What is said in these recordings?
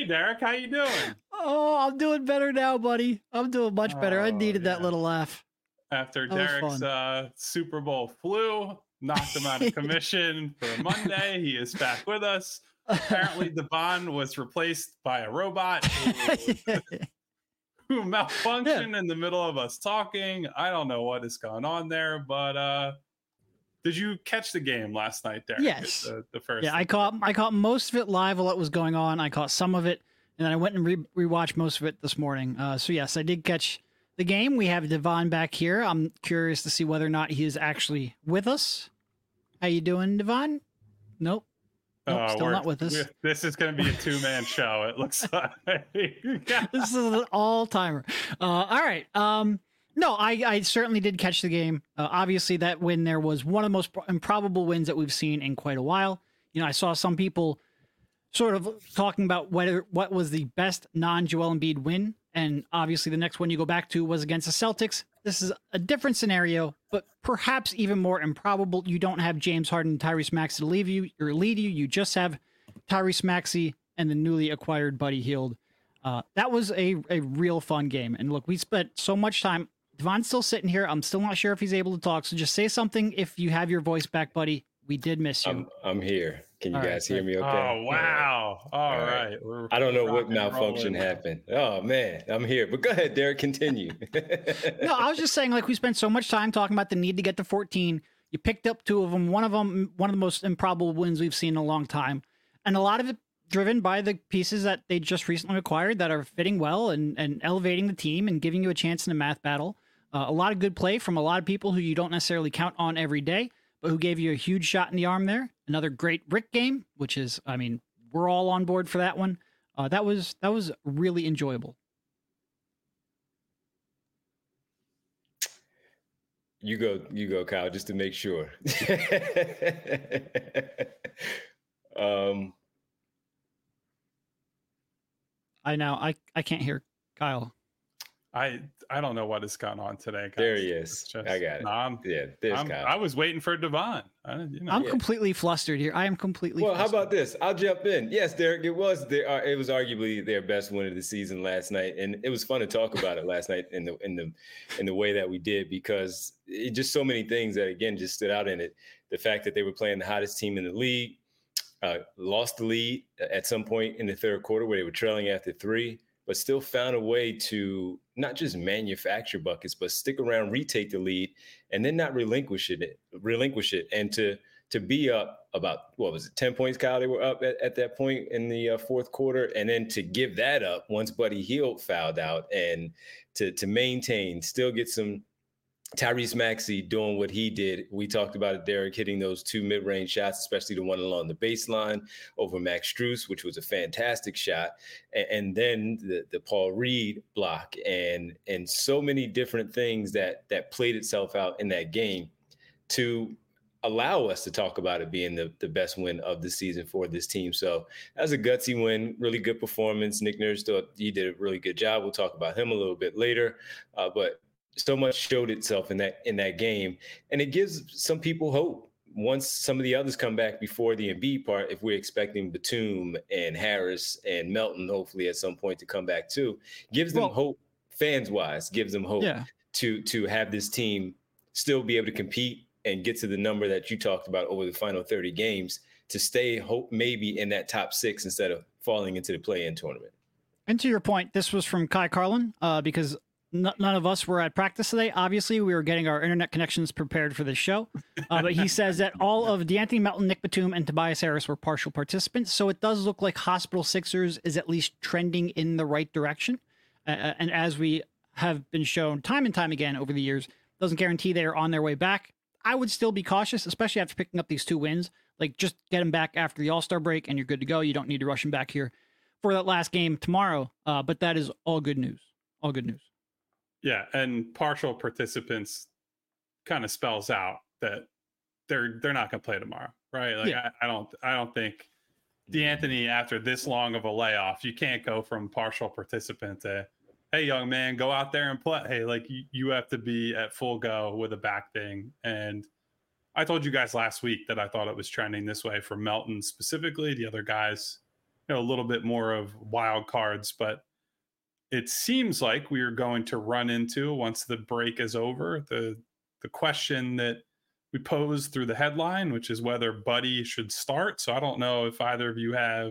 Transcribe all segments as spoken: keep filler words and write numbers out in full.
Hey, Derek, how you doing? Oh, I'm doing better now, buddy. I'm doing much better. I Oh, needed that yeah. little laugh. After That was Derek's fun. uh, Super Bowl flu knocked him out of commission for Monday, he is back with us. Apparently, Devon was replaced by a robot who, who Yeah. malfunctioned in the middle of us talking. I don't know what is going on there, but uh, did you catch the game last night, Derek? Yes. The, the first. Yeah, I caught I caught most of it live while it was going on. I caught some of it, and then I went and re- rewatched most of it this morning. Uh, so yes, I did catch the game. We have Devon back here. I'm curious to see whether or not he is actually with us. How you doing, Devon? Nope. Nope, Uh, still we're- not with us. we're- This is going to be a two-man show. It looks like. This is an all timer. Uh, all right. Um, no, I, I certainly did catch the game. Uh, obviously, that win there was one of the most pro- improbable wins that we've seen in quite a while. You know, I saw some people sort of talking about whether what was the best non-Joel Embiid win, and obviously the next one you go back to was against the Celtics. This is a different scenario, but perhaps even more improbable. You don't have James Harden and Tyrese Maxey to leave you or lead you. You just have Tyrese Maxey and the newly acquired Buddy Hield. Uh, that was a, a real fun game. And look, we spent so much time. Devon's still sitting here. I'm still not sure if he's able to talk. So just say something if you have your voice back, buddy. We did miss you. I'm I'm here. Can you All guys right, hear me okay? Oh, wow. All All right. right. We're- I don't know we're what rock and malfunction rolling. happened. Oh man, I'm here. But go ahead, Derek, continue. No, I was just saying, like, we spent so much time talking about the need to get to fourteen. You picked up two of them. One of them, one of the most improbable wins we've seen in a long time. And a lot of it driven by the pieces that they just recently acquired that are fitting well and, and elevating the team and giving you a chance in a math battle. Uh, a lot of good play from a lot of people who you don't necessarily count on every day, but who gave you a huge shot in the arm there. Another great Rick game, which is, I mean, we're all on board for that one. Uh, that was that was really enjoyable. You go, you go, Kyle, just to make sure. um, I now I I can't hear Kyle. I I don't know what has gone on today. Guys. there he is. It's just- I got it. no, I'm- yeah, there's I'm- Kyle. I was waiting for Devon. I, you know. I'm Yeah. completely flustered here. I am completely. Well, how flustered. about this? I'll jump in. Yes, Derek, it was their, uh, it was arguably their best win of the season last night, and it was fun to talk about it last night in the in the in the way that we did because it just so many things that again just stood out in it. The fact that they were playing the hottest team in the league, uh, lost the lead at some point in the third quarter where they were trailing after three, but still found a way to not just manufacture buckets, but stick around, retake the lead, and then not relinquish it, relinquish it, and to to be up about, what was it, ten points, Kyle? They were up at, at that point in the uh, fourth quarter, and then to give that up once Buddy Hield fouled out, and to to maintain, still get some Tyrese Maxey doing what he did. We talked about it, Derek, hitting those two mid-range shots, especially the one along the baseline over Max Strus, which was a fantastic shot. And, and then the, the Paul Reed block and and so many different things that that played itself out in that game to allow us to talk about it being the, the best win of the season for this team. So that was a gutsy win, really good performance. Nick Nurse thought he did a really good job. We'll talk about him a little bit later. Uh, but so much showed itself in that in that game, and it gives some people hope. Once some of the others come back before the Embiid part, if we're expecting Batum and Harris and Melton, hopefully at some point to come back too, gives them Well- hope, fans wise, gives them hope Yeah. to to have this team still be able to compete and get to the number that you talked about over the final thirty games to stay hope maybe in that top six instead of falling into the play-in tournament. And to your point, this was from Kai Carlin, uh, because n- none of us were at practice today. Obviously, we were getting our internet connections prepared for this show. Uh, but he says that all of DeAnthony Melton, Nick Batum, and Tobias Harris were partial participants. So it does look like Hospital Sixers is at least trending in the right direction. Uh, and as we have been shown time and time again over the years, doesn't guarantee they are on their way back. I would still be cautious, especially after picking up these two wins. Like, just get them back after the All-Star break, and you're good to go. You don't need to rush them back here for that last game tomorrow. Uh, but that is all good news. All good news. Yeah, and partial participants kind of spells out that they're they're not going to play tomorrow, right? Like Yeah. I, I don't I don't think DeAnthony, after this long of a layoff, you can't go from partial participant to, hey, young man, go out there and play. Hey, like you, you have to be at full go with a back thing. And I told you guys last week that I thought it was trending this way for Melton specifically. The other guys you know, a little bit more of wild cards, but it seems like we are going to run into, once the break is over, the the question that we posed through the headline, which is whether Buddy should start. So I don't know if either of you have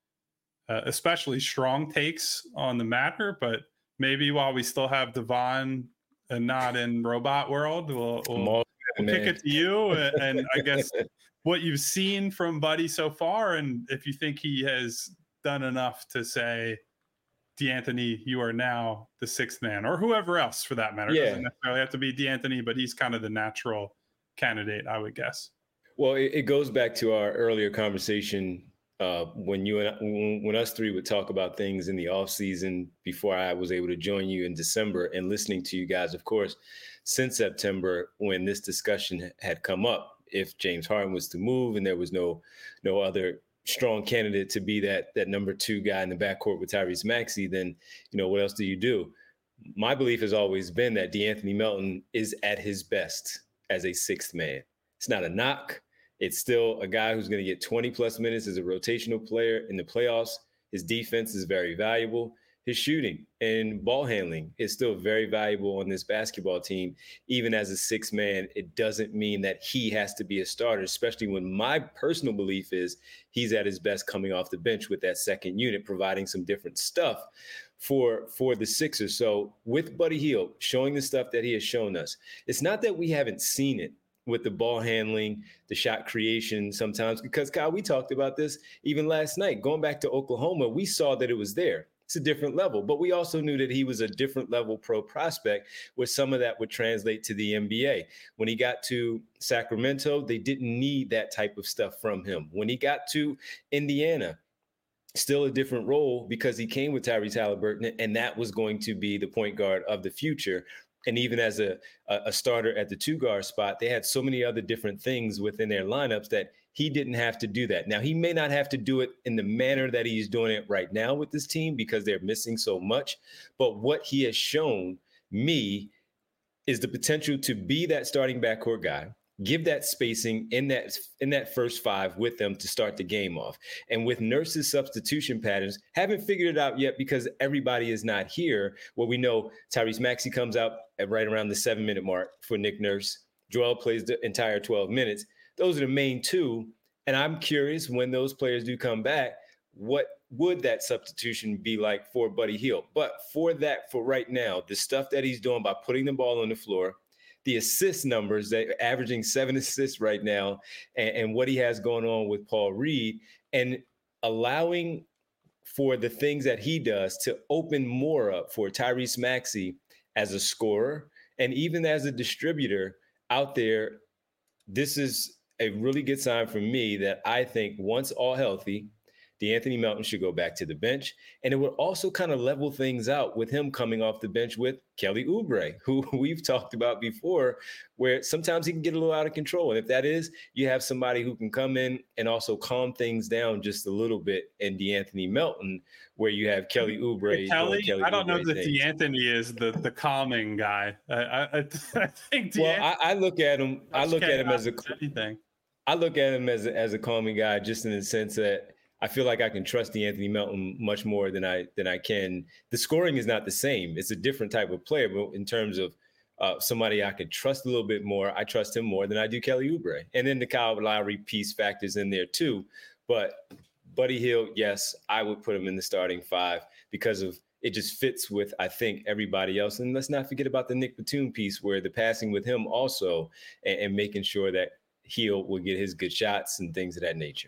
uh, especially strong takes on the matter, but maybe while we still have Devon and not in robot world, we'll, we'll, we'll kick it to you. And, and I guess what you've seen from Buddy so far, and if you think he has done enough to say, DeAnthony, you are now the sixth man, or whoever else for that matter. Yeah. It doesn't necessarily have to be DeAnthony, but he's kind of the natural candidate, I would guess. Well, it, it goes back to our earlier conversation uh, when you and I, when, when us three would talk about things in the off season before I was able to join you in December, and listening to you guys, of course, since September when this discussion had come up. If James Harden was to move and there was no no other strong candidate to be that that number two guy in the backcourt with Tyrese Maxey, then, you know, what else do you do? My belief has always been that DeAnthony Melton is at his best as a sixth man. It's not a knock. It's still a guy who's going to get twenty plus minutes as a rotational player in the playoffs. His defense is very valuable. His shooting and ball handling is still very valuable on this basketball team. Even as a sixth man, it doesn't mean that he has to be a starter, especially when my personal belief is he's at his best coming off the bench with that second unit, providing some different stuff for, for the Sixers. So with Buddy Hield showing the stuff that he has shown us, it's not that we haven't seen it with the ball handling, the shot creation sometimes, because Kyle, we talked about this even last night. Going back to Oklahoma, we saw that it was there. It's a different level, but we also knew that he was a different level pro prospect, where some of that would translate to the N B A. When he got to Sacramento, they didn't need that type of stuff from him. When he got to Indiana, still a different role because he came with Tyrese Halliburton, and that was going to be the point guard of the future. And even as a, a starter at the two guard spot, they had so many other different things within their lineups that he didn't have to do that. Now, he may not have to do it in the manner that he's doing it right now with this team because they're missing so much. But what he has shown me is the potential to be that starting backcourt guy, give that spacing in that in that first five with them to start the game off. And with Nurse's substitution patterns, haven't figured it out yet because everybody is not here. Well, we know Tyrese Maxey comes out at right around the seven-minute mark for Nick Nurse. Joel plays the entire twelve minutes. Those are the main two. And I'm curious, when those players do come back, what would that substitution be like for Buddy Hield? But for that, for right now, the stuff that he's doing by putting the ball on the floor, the assist numbers, that averaging seven assists right now, and, and what he has going on with Paul Reed, and allowing for the things that he does to open more up for Tyrese Maxey as a scorer and even as a distributor out there. This is a really good sign for me that I think once all healthy, DeAnthony Melton should go back to the bench. And it would also kind of level things out with him coming off the bench with Kelly Oubre, who we've talked about before, where sometimes he can get a little out of control. And if that is, you have somebody who can come in and also calm things down just a little bit in DeAnthony Melton, where you have Kelly Oubre. Hey, Kelly, Kelly I don't know Oubre that things. DeAnthony is the, the calming guy. I, I, I think DeAnthony, Well, I, I look at him, I look at him as a, anything. I look at him as a, as a calming guy, just in the sense that I feel like I can trust DeAnthony Melton much more than I than I can. The scoring is not the same. It's a different type of player, but in terms of uh, somebody I could trust a little bit more, I trust him more than I do Kelly Oubre. And then the Kyle Lowry piece factors in there too. But Buddy Hield, yes, I would put him in the starting five because of it just fits with, I think, everybody else. And let's not forget about the Nick Batum piece, where the passing with him also, and, and making sure that Hield will get his good shots and things of that nature.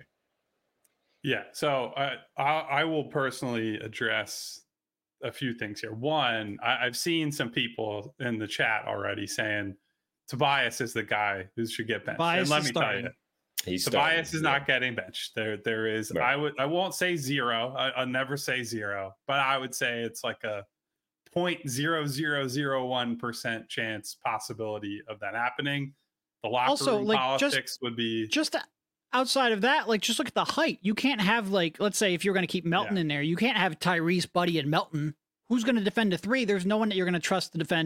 Yeah, so uh, I, I will personally address a few things here. One, I, I've seen some people in the chat already saying Tobias is the guy who should get benched. Tobias and let is me starting. tell you, He's Tobias starting, is yeah. not getting benched. There, there is. Right. I would. I won't say zero. I, I'll never say zero, but I would say it's like a point zero zero zero one percent chance possibility of that happening. The locker Also, room like, politics just- would be Just outside of that, like, just look at the height. You can't have, like, let's say if you're going to keep Melton Yeah. in there, you can't have Tyrese, Buddy, and Melton. Who's going to defend a three? There's no one that you're going to trust to defend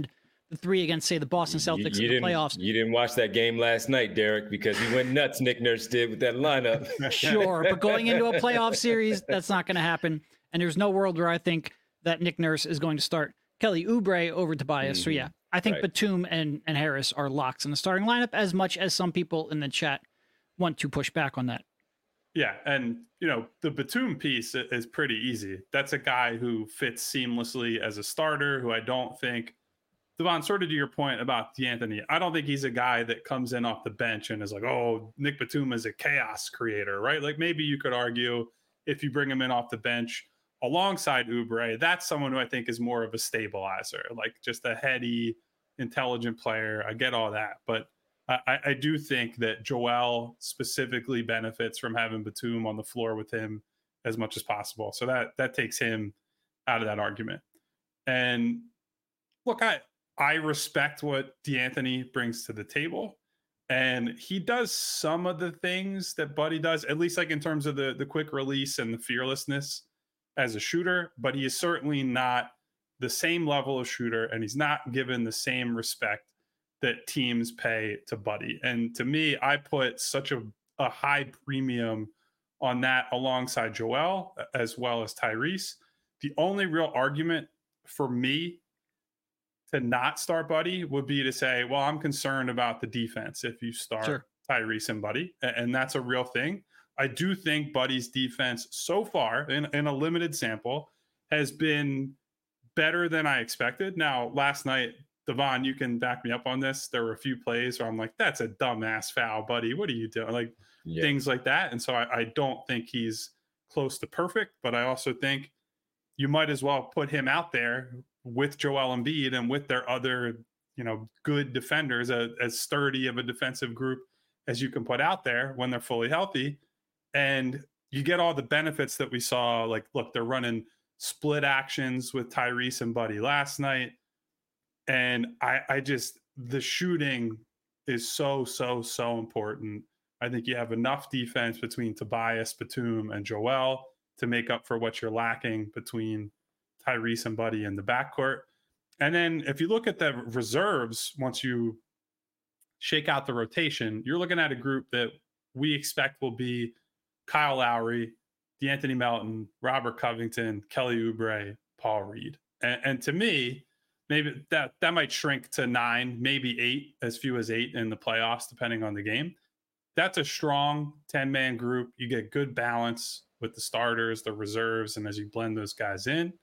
the three against, say, the Boston Celtics you, you in the playoffs. You didn't watch that game last night, Derek, because he went nuts. Nick Nurse did with that lineup. Sure, but going into a playoff series, that's not going to happen. And there's no world where I think that Nick Nurse is going to start Kelly Oubre over Tobias. Mm-hmm. So yeah, I think right. Batum and, and Harris are locks in the starting lineup, as much as some people in the chat want to push back on that. Yeah, and you know, the Batum piece is pretty easy. That's a guy who fits seamlessly as a starter, who I don't think, Devon, sort of to your point about D'Anthony, I don't think he's a guy that comes in off the bench and is like, oh, Nick Batum is a chaos creator, right? Like maybe you could argue if you bring him in off the bench alongside Oubre, that's someone who I think is more of a stabilizer, like just a heady, intelligent player. I get all that. But I, I do think that Joel specifically benefits from having Batum on the floor with him as much as possible. So that that takes him out of that argument. And look, I I respect what D'Anthony brings to the table. And he does some of the things that Buddy does, at least like in terms of the, the quick release and the fearlessness as a shooter, but he is certainly not the same level of shooter, and he's not given the same respect that teams pay to Buddy. And to me, I put such a, a high premium on that alongside Joel as well as Tyrese. The only real argument for me to not start Buddy would be to say, well, I'm concerned about the defense if you start sure. Tyrese and Buddy, and that's a real thing. I do think Buddy's defense so far in, in a limited sample has been better than I expected. Now, last night, Devon, you can back me up on this. There were a few plays where I'm like, that's a dumbass foul, Buddy. What are you doing? Like yeah. things like that. And so I, I don't think he's close to perfect, but I also think you might as well put him out there with Joel Embiid and with their other, you know, good defenders, a, as sturdy of a defensive group as you can put out there when they're fully healthy. And you get all the benefits that we saw. Like, look, they're running split actions with Tyrese and Buddy last night. And I, I just, the shooting is so, so, so important. I think you have enough defense between Tobias, Batum, and Joel to make up for what you're lacking between Tyrese and Buddy in the backcourt. And then if you look at the reserves, once you shake out the rotation, you're looking at a group that we expect will be Kyle Lowry, D'Anthony Melton, Robert Covington, Kelly Oubre, Paul Reed. And, and to me, maybe that, that might shrink to nine, maybe eight, as few as eight in the playoffs, depending on the game. That's a strong ten-man group. You get good balance with the starters, the reserves, and as you blend those guys in.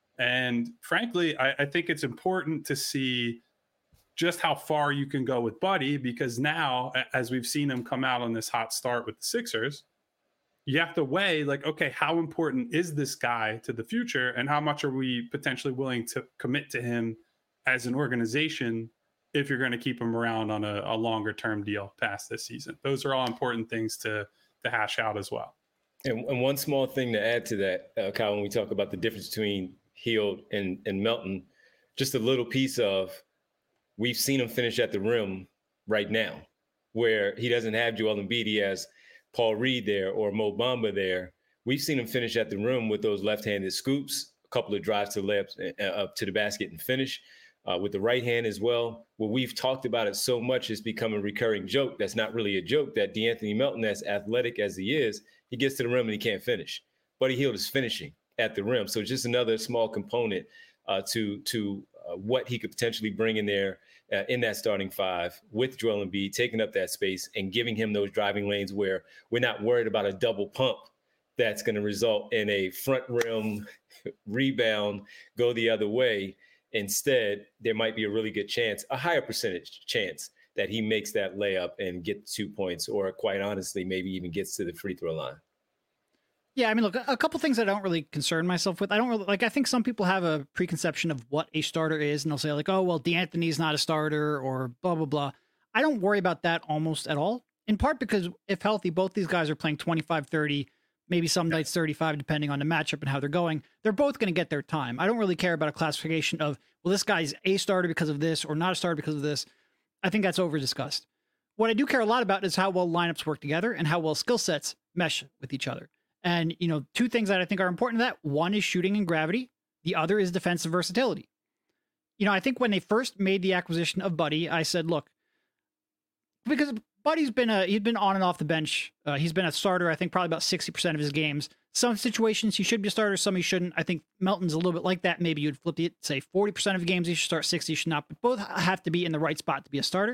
And frankly, I, I think it's important to see just how far you can go with Buddy, because now, as we've seen him come out on this hot start with the Sixers, you have to weigh, like, okay, how important is this guy to the future, and how much are we potentially willing to commit to him as an organization if you're going to keep him around on a, a longer term deal past this season? Those are all important things to to hash out as well. And, and one small thing to add to that, uh, Kyle, when we talk about the difference between Hield and, and Melton, just a little piece of, we've seen him finish at the rim right now, where he doesn't have Joel Embiid, he has Paul Reed there or Mo Bamba there. We've seen him finish at the rim with those left-handed scoops, a couple of drives to the layups, uh, up to the basket and finish. Uh, with the right hand as well. Well, we've talked about it so much, it's become a recurring joke. That's not really a joke, that D'Anthony Melton, as athletic as he is, he gets to the rim and he can't finish. Buddy Hield is finishing at the rim. So just another small component uh, to to uh, what he could potentially bring in there uh, in that starting five with Joel Embiid, taking up that space and giving him those driving lanes where we're not worried about a double pump that's going to result in a front rim rebound, go the other way. Instead, there might be a really good chance, a higher percentage chance, that he makes that layup and gets two points, or quite honestly, maybe even gets to the free throw line. Yeah, I mean, look, a couple things I don't really concern myself with. I don't really, like, I think some people have a preconception of what a starter is, and they'll say, like, oh, well, D'Anthony's not a starter, or blah, blah, blah. I don't worry about that almost at all, in part because if healthy, both these guys are playing twenty-five, thirty, maybe some nights thirty-five, depending on the matchup and how they're going. They're both going to get their time. I don't really care about a classification of, well, this guy's a starter because of this or not a starter because of this. I think that's over-discussed. What I do care a lot about is how well lineups work together and how well skill sets mesh with each other. And, you know, two things that I think are important to that. One is shooting and gravity. The other is defensive versatility. you know, I think when they first made the acquisition of Buddy, I said, look, because Buddy's been a he's been on and off the bench. Uh, he's been a starter, I think, probably about sixty percent of his games. Some situations he should be a starter, some he shouldn't. I think Melton's a little bit like that. Maybe you'd flip it, say forty percent of games he should start, sixty should not. But both have to be in the right spot to be a starter.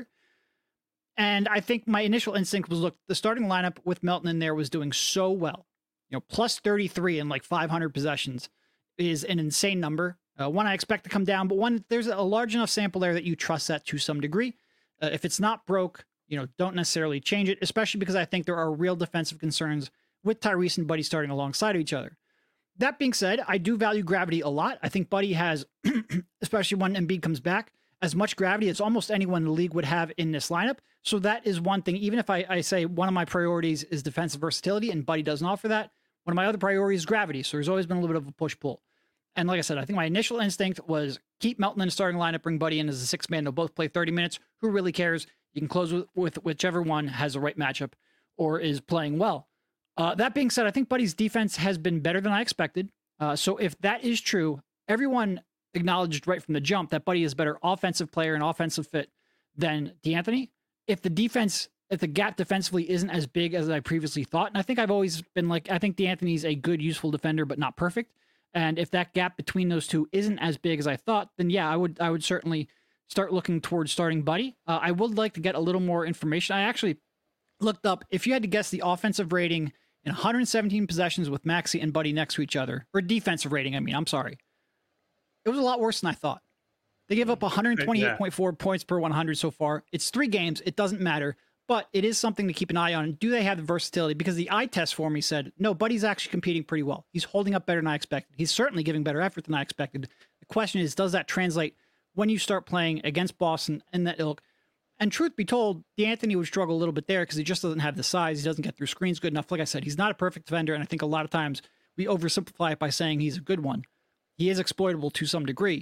And I think my initial instinct was, look, the starting lineup with Melton in there was doing so well. You know, plus thirty-three in like five hundred possessions is an insane number. Uh, one I expect to come down, but one, there's a large enough sample there that you trust that to some degree. Uh, if it's not broke, you know, don't necessarily change it, especially because I think there are real defensive concerns with Tyrese and Buddy starting alongside of each other. That being said, I do value gravity a lot. I think Buddy has, especially when Embiid comes back, as much gravity as almost anyone in the league would have in this lineup. So that is one thing. Even if I, I say one of my priorities is defensive versatility and Buddy doesn't offer that, one of my other priorities is gravity. So there's always been a little bit of a push-pull. And like I said, I think my initial instinct was keep Melton in the starting lineup, bring Buddy in as a six-man. They'll both play thirty minutes. Who really cares? You can close with, with whichever one has the right matchup or is playing well. Uh, that being said, I think Buddy's defense has been better than I expected. Uh, so if that is true, everyone acknowledged right from the jump that Buddy is a better offensive player and offensive fit than DeAnthony. If the defense, if the gap defensively isn't as big as I previously thought, and I think I've always been like, I think DeAnthony's a good, useful defender, but not perfect. And if that gap between those two isn't as big as I thought, then yeah, I would, I would certainly start looking towards starting Buddy. Uh, I would like to get a little more information. I actually looked up, if you had to guess the offensive rating in one hundred seventeen possessions with Maxey and Buddy next to each other, or defensive rating, I mean, I'm sorry. It was a lot worse than I thought. They give up one hundred twenty-eight point four yeah. points per one hundred so far. It's three games. It doesn't matter, but it is something to keep an eye on. Do they have the versatility? Because the eye test for me said, no, Buddy's actually competing pretty well. He's holding up better than I expected. He's certainly giving better effort than I expected. The question is, does that translate when you start playing against Boston and that ilk? And truth be told, DeAnthony would struggle a little bit there because he just doesn't have the size. He doesn't get through screens good enough. Like I said, he's not a perfect defender, and I think a lot of times we oversimplify it by saying he's a good one. He is exploitable to some degree.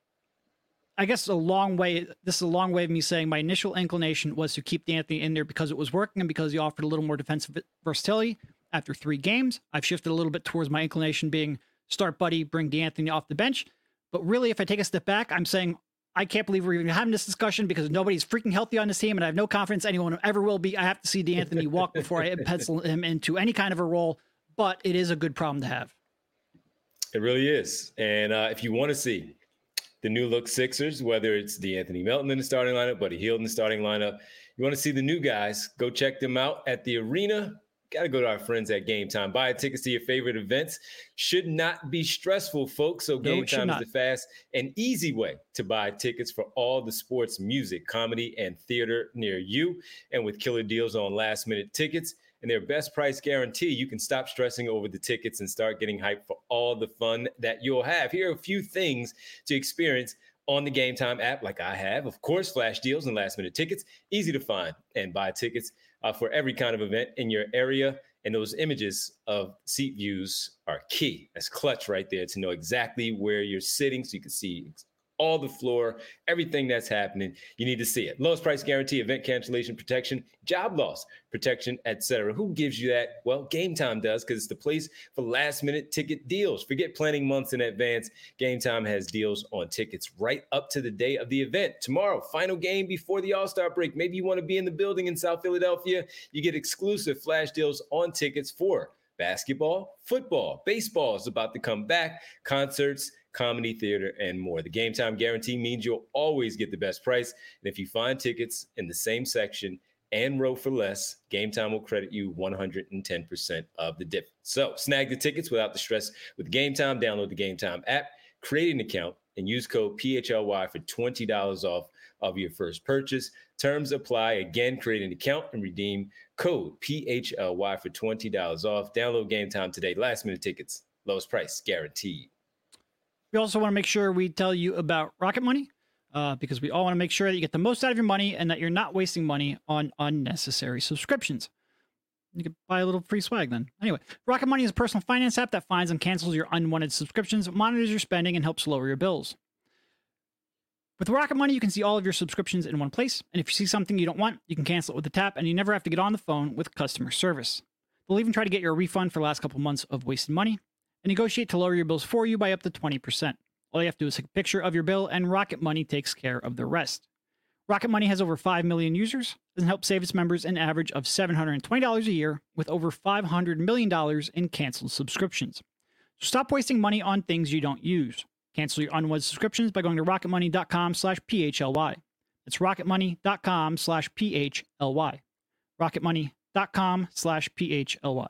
I guess a long way, this is a long way of me saying my initial inclination was to keep DeAnthony in there because it was working and because he offered a little more defensive versatility. After three games, I've shifted a little bit towards my inclination being start Buddy, bring DeAnthony off the bench. But really, if I take a step back, I'm saying I can't believe we're even having this discussion because nobody's freaking healthy on this team, and I have no confidence anyone ever will be. I have to see DeAnthony walk before I pencil him into any kind of a role, but it is a good problem to have. It really is. And uh, if you want to see the new look Sixers, whether it's DeAnthony Melton in the starting lineup, Buddy Hield in the starting lineup, you want to see the new guys, go check them out at the arena. Got to go to our friends at Game Time. Buy tickets to your favorite events. Should not be stressful, folks. So Game Time is the fast and easy way to buy tickets for all the sports, music, comedy, and theater near you. And with killer deals on last-minute tickets and their best price guarantee, you can stop stressing over the tickets and start getting hyped for all the fun that you'll have. Here are a few things to experience on the Game Time app, like I have. Of course, flash deals and last-minute tickets. Easy to find and buy tickets uh, for every kind of event in your area. And those images of seat views are key. That's clutch right there to know exactly where you're sitting so you can see all the floor, everything that's happening. You need to see it. Lowest price guarantee, event cancellation protection, job loss protection, et cetera. Who gives you that? Well, Game Time does, because it's the place for last minute ticket deals. Forget planning months in advance. Game Time has deals on tickets right up to the day of the event. Tomorrow, final game before the All-Star break. Maybe you want to be in the building in South Philadelphia. You get exclusive flash deals on tickets for basketball, football, baseball is about to come back, concerts, comedy, theater, and more. The Game Time guarantee means you'll always get the best price. And if you find tickets in the same section and row for less, Game Time will credit you one hundred ten percent of the difference. So snag the tickets without the stress with Game Time. Download the Game Time app, create an account, and use code P H L Y for twenty dollars off of your first purchase. Terms apply. Again, create an account and redeem code P H L Y for twenty dollars off. Download Game Time today. Last minute tickets, lowest price guaranteed. We also want to make sure we tell you about Rocket Money uh, because we all want to make sure that you get the most out of your money and that you're not wasting money on unnecessary subscriptions. You could buy a little free swag then. Anyway, Rocket Money is a personal finance app that finds and cancels your unwanted subscriptions, monitors your spending, and helps lower your bills. With Rocket Money, you can see all of your subscriptions in one place, and if you see something you don't want, you can cancel it with a tap, and you never have to get on the phone with customer service. They'll even try to get you a refund for the last couple months of wasted money, and negotiate to lower your bills for you by up to twenty percent. All you have to do is take a picture of your bill, and Rocket Money takes care of the rest. Rocket Money has over five million users and helps save its members an average of seven hundred twenty dollars a year with over five hundred million dollars in canceled subscriptions. So stop wasting money on things you don't use. Cancel your unwanted subscriptions by going to rocketmoney.com slash PHLY. That's rocketmoney.com slash PHLY. rocketmoney.com slash PHLY.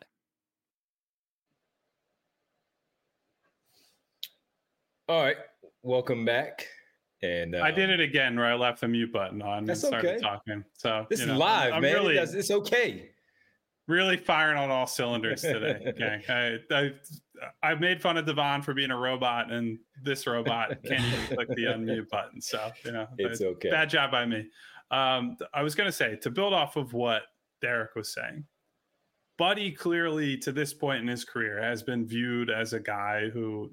All right. Welcome back. And uh, I did it again where I left the mute button on and started okay. talking. So this you is know, live, I'm man. Really, it does, it's okay. Really firing on all cylinders today. Okay. I, I I made fun of Devon for being a robot, and this robot can't even click the unmute button. So, you know, it's okay. Bad job by me. Um, I was going to say, to build off of what Derek was saying, Buddy clearly to this point in his career has been viewed as a guy who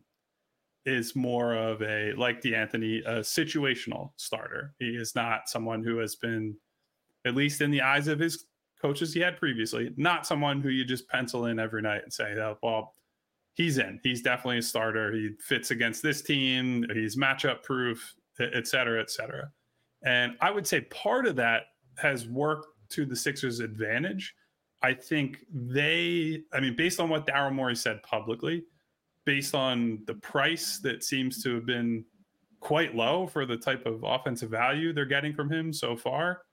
is more of a, like DeAnthony, a situational starter. He is not someone who has been, at least in the eyes of his coaches he had previously, not someone who you just pencil in every night and say, oh, well, he's in. He's definitely a starter. He fits against this team. He's matchup proof, et cetera, et cetera. And I would say part of that has worked to the Sixers' advantage. I think they, I mean, based on what Daryl Morey said publicly, based on the price that seems to have been quite low for the type of offensive value they're getting from him so far,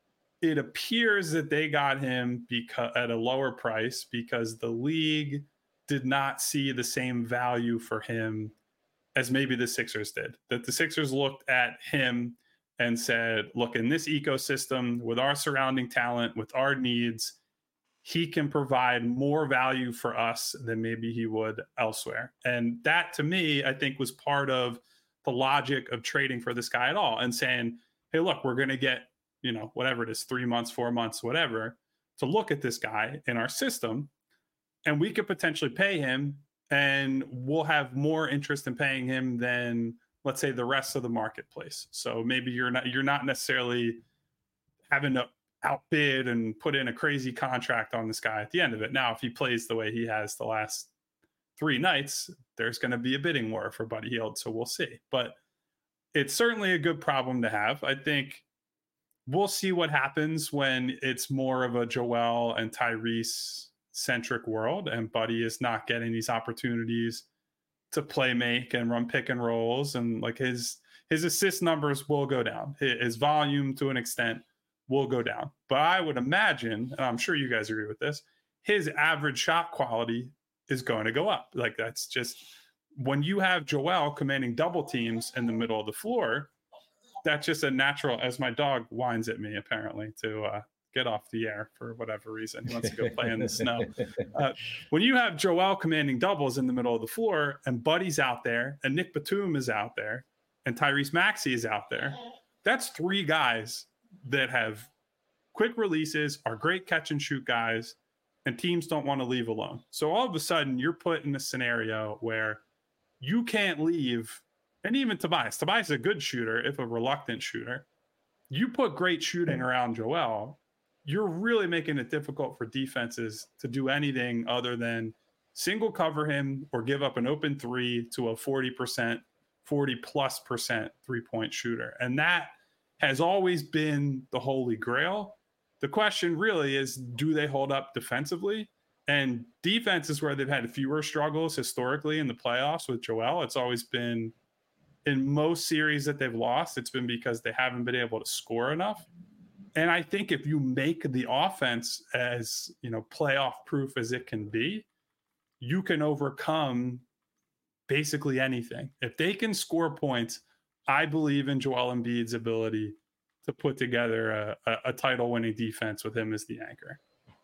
it appears that they got him because at a lower price because the league did not see the same value for him as maybe the Sixers did. That the Sixers looked at him and said, look, in this ecosystem, with our surrounding talent, with our needs, he can provide more value for us than maybe he would elsewhere. And that, to me, I think was part of the logic of trading for this guy at all and saying, hey, look, we're going to get, you know, whatever it is, three months, four months, whatever, to look at this guy in our system, and we could potentially pay him, and we'll have more interest in paying him than, let's say, the rest of the marketplace. So maybe you're not you're not necessarily having to outbid and put in a crazy contract on this guy at the end of it. Now, if he plays the way he has the last three nights, there's going to be a bidding war for Buddy Hield. So we'll see. But it's certainly a good problem to have. I think we'll see what happens when it's more of a Joel and Tyrese centric world and Buddy is not getting these opportunities to play make and run pick and rolls, and like his his assist numbers will go down. His volume to an extent will go down. But I would imagine, and I'm sure you guys agree with this, his average shot quality is going to go up. Like that's just, when you have Joel commanding double teams in the middle of the floor, that's just a natural, as my dog whines at me apparently to uh, get off the air for whatever reason. He wants to go play in the snow. Uh, when you have Joel commanding doubles in the middle of the floor and Buddy's out there and Nick Batum is out there and Tyrese Maxey is out there, that's three guys that have quick releases, are great catch and shoot guys, and teams don't want to leave alone. So all of a sudden you're put in a scenario where you can't leave. And even Tobias, Tobias is a good shooter, if a reluctant shooter. You put great shooting around Joel, you're really making it difficult for defenses to do anything other than single cover him or give up an open three to a forty percent, forty plus percent three-point shooter. And that has always been the holy grail. The question really is, do they hold up defensively? And defense is where they've had fewer struggles historically in the playoffs with Joel. It's always been, in most series that they've lost, it's been because they haven't been able to score enough. And I think if you make the offense as, you know, playoff proof as it can be, you can overcome basically anything. If they can score points, I believe in Joel Embiid's ability to put together a, a, a title-winning defense with him as the anchor.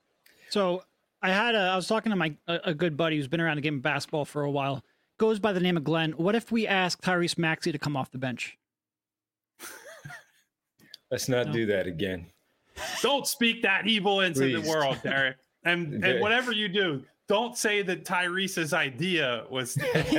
So I had a, I was talking to my a, a good buddy who's been around the game of basketball for a while. Goes by the name of Glenn. What if we ask Tyrese Maxey to come off the bench? Let's not no. do that again. Don't speak that evil into Please. the world, Derek. And and whatever you do, don't say that Tyrese's idea was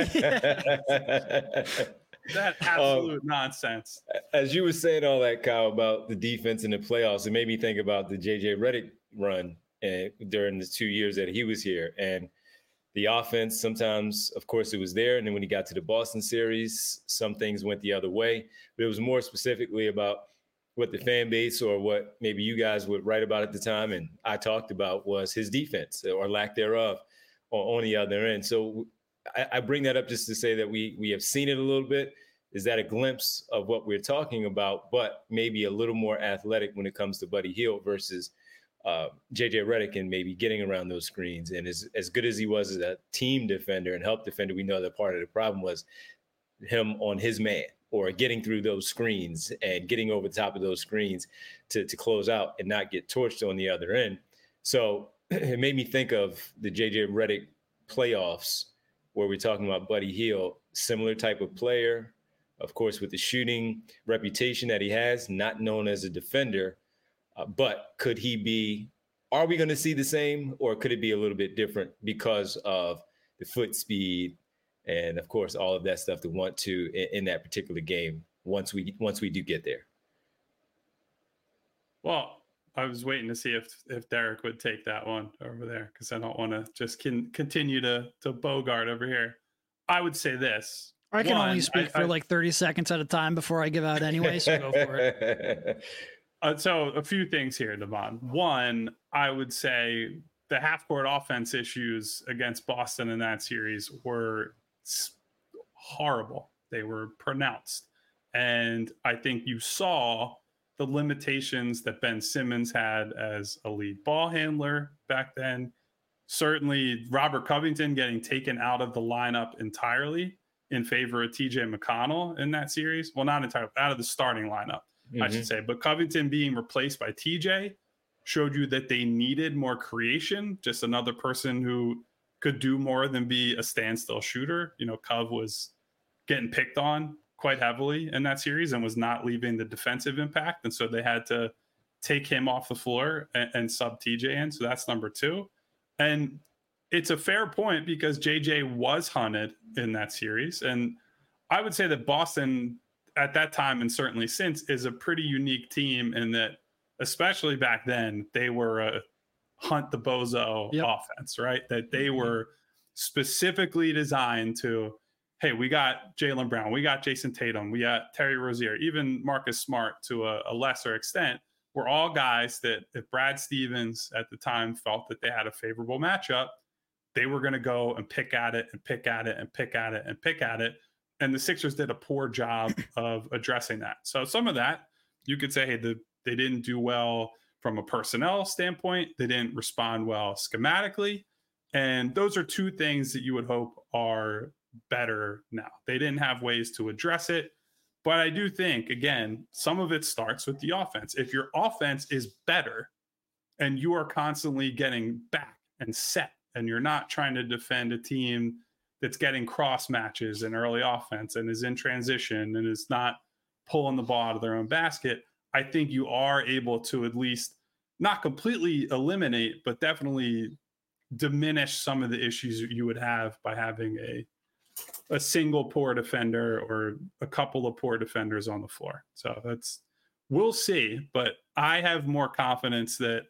that absolute um, nonsense. As you were saying all that, Kyle, about the defense in the playoffs, it made me think about the J J Redick run uh, during the two years that he was here. And the offense, sometimes, of course, it was there. And then when he got to the Boston series, some things went the other way. But it was more specifically about what the fan base or what maybe you guys would write about at the time and I talked about was his defense or lack thereof on the other end. So I, I bring that up just to say that we we have seen it a little bit. Is that a glimpse of what we're talking about, but maybe a little more athletic when it comes to Buddy Hield versus uh, J J Redick and maybe getting around those screens. And as, as good as he was as a team defender and help defender, we know that part of the problem was him on his man or getting through those screens and getting over the top of those screens to, to close out and not get torched on the other end. So it made me think of the J J Redick playoffs where we're talking about Buddy Hield, similar type of player, of course, with the shooting reputation that he has, not known as a defender. Uh, but could he be, are we going to see the same, or could it be a little bit different because of the foot speed and, of course, all of that stuff to want to in, in that particular game once we once we do get there? Well, I was waiting to see if if Derek would take that one over there because I don't want to just can continue to to bogart over here. I would say this. I can one, only speak I, for I, like thirty seconds at a time before I give out anyway, so go for it. Uh, so a few things here, Devon. One, I would say the half-court offense issues against Boston in that series were horrible. They were pronounced. And I think you saw the limitations that Ben Simmons had as a lead ball handler back then. Certainly Robert Covington getting taken out of the lineup entirely in favor of T J McConnell in that series. Well, not entirely, out of the starting lineup, mm-hmm. I should say. But Covington being replaced by T J showed you that they needed more creation, just another person who could do more than be a standstill shooter. You know, Cov was getting picked on quite heavily in that series and was not leaving the defensive impact. And so they had to take him off the floor and, and sub T J in. So that's number two. And it's a fair point because J J was hunted in that series. And I would say that Boston at that time, and certainly since, is a pretty unique team in that, especially back then, they were a hunt the bozo yep. offense, right? That they were specifically designed to, hey, we got Jaylen Brown, we got Jason Tatum, we got Terry Rozier, even Marcus Smart to a, a lesser extent. We're all guys that if Brad Stevens at the time felt that they had a favorable matchup, they were going to go and pick at it and pick at it and pick at it and pick at it. And the Sixers did a poor job of addressing that. So some of that, you could say, hey, the, they didn't do well from a personnel standpoint. They didn't respond well schematically. And those are two things that you would hope are better now. They didn't have ways to address it. But I do think, again, some of it starts with the offense. If your offense is better and you are constantly getting back and set, and you're not trying to defend a team that's getting cross matches in early offense and is in transition and is not pulling the ball out of their own basket, I think you are able to at least not completely eliminate, but definitely diminish some of the issues you would have by having a a single poor defender or a couple of poor defenders on the floor. So that's, we'll see, but I have more confidence that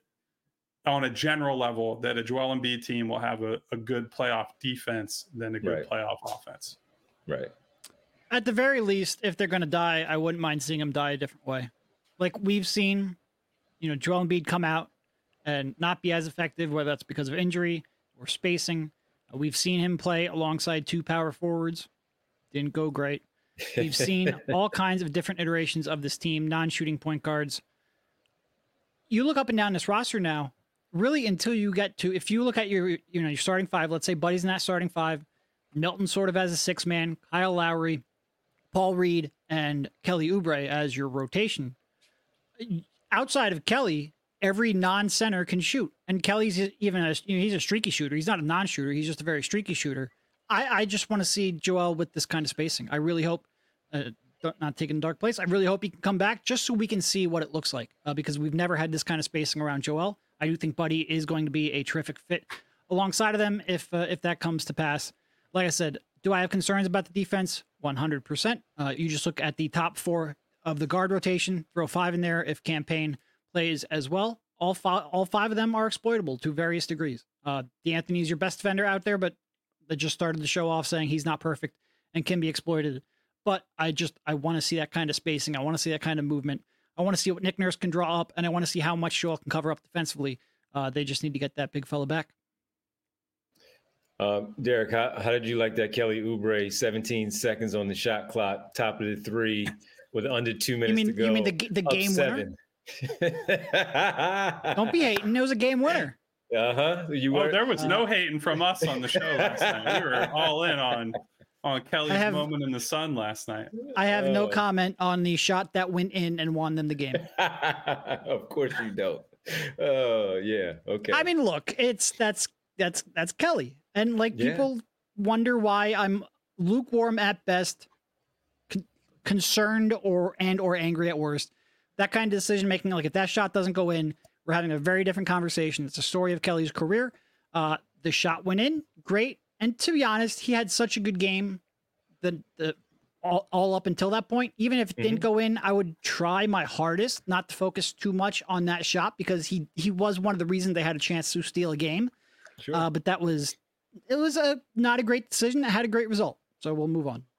on a general level that a Joel Embiid team will have a, a good playoff defense than a good right. playoff offense. Right. At the very least, if they're going to die, I wouldn't mind seeing them die a different way. Like we've seen, you know, Joel Embiid come out and not be as effective, whether that's because of injury or spacing. We've seen him play alongside two power forwards. Didn't go great. We've seen all kinds of different iterations of this team, non-shooting point guards. You look up and down this roster now, really until you get to, if you look at your, you know, your starting five, let's say Buddy's in that starting five, Milton sort of as a six man, Kyle Lowry, Paul Reed, and Kelly Oubre as your rotation. Outside of Kelly, every non-center can shoot. And Kelly's even a, you know, he's a streaky shooter. He's not a non-shooter. He's just a very streaky shooter. I, I just want to see Joel with this kind of spacing. I really hope, uh, not taking a dark place, I really hope he can come back just so we can see what it looks like, uh, because we've never had this kind of spacing around Joel. I do think Buddy is going to be a terrific fit alongside of them if uh, if that comes to pass. Like I said, do I have concerns about the defense? one hundred percent. Uh, you just look at the top four of the guard rotation, throw five in there if Campaign plays as well. All five, all five of them are exploitable to various degrees. Uh, D'Anthony's your best defender out there, but that just started the show off saying he's not perfect and can be exploited. But I just, I want to see that kind of spacing. I want to see that kind of movement. I want to see what Nick Nurse can draw up, and I want to see how much Joel can cover up defensively. Uh, they just need to get that big fella back. Um, Derek, how, how did you like that Kelly Oubre seventeen seconds on the shot clock, top of the three with under two minutes you mean, to go? You mean the, the game seven. winner? Don't be hating. It was a game winner. Uh-huh. You oh, were. there was no hating from us on the show last night. We were all in on on Kelly's have, moment in the sun last night. I have oh. no comment on the shot that went in and won them the game. Of course you don't. Oh, yeah. Okay. I mean, look, it's that's that's that's Kelly. And like yeah. people wonder why I'm lukewarm at best, con- concerned or and or angry at worst. That kind of decision making, like if that shot doesn't go in, we're having a very different conversation. It's a story of Kelly's career. Uh, the shot went in, great. And to be honest, he had such a good game the, the all, all up until that point. Even if it mm-hmm. didn't go in, I would try my hardest not to focus too much on that shot because he he was one of the reasons they had a chance to steal a game. Sure. Uh, but that was it was a not a great decision. It had a great result. So we'll move on.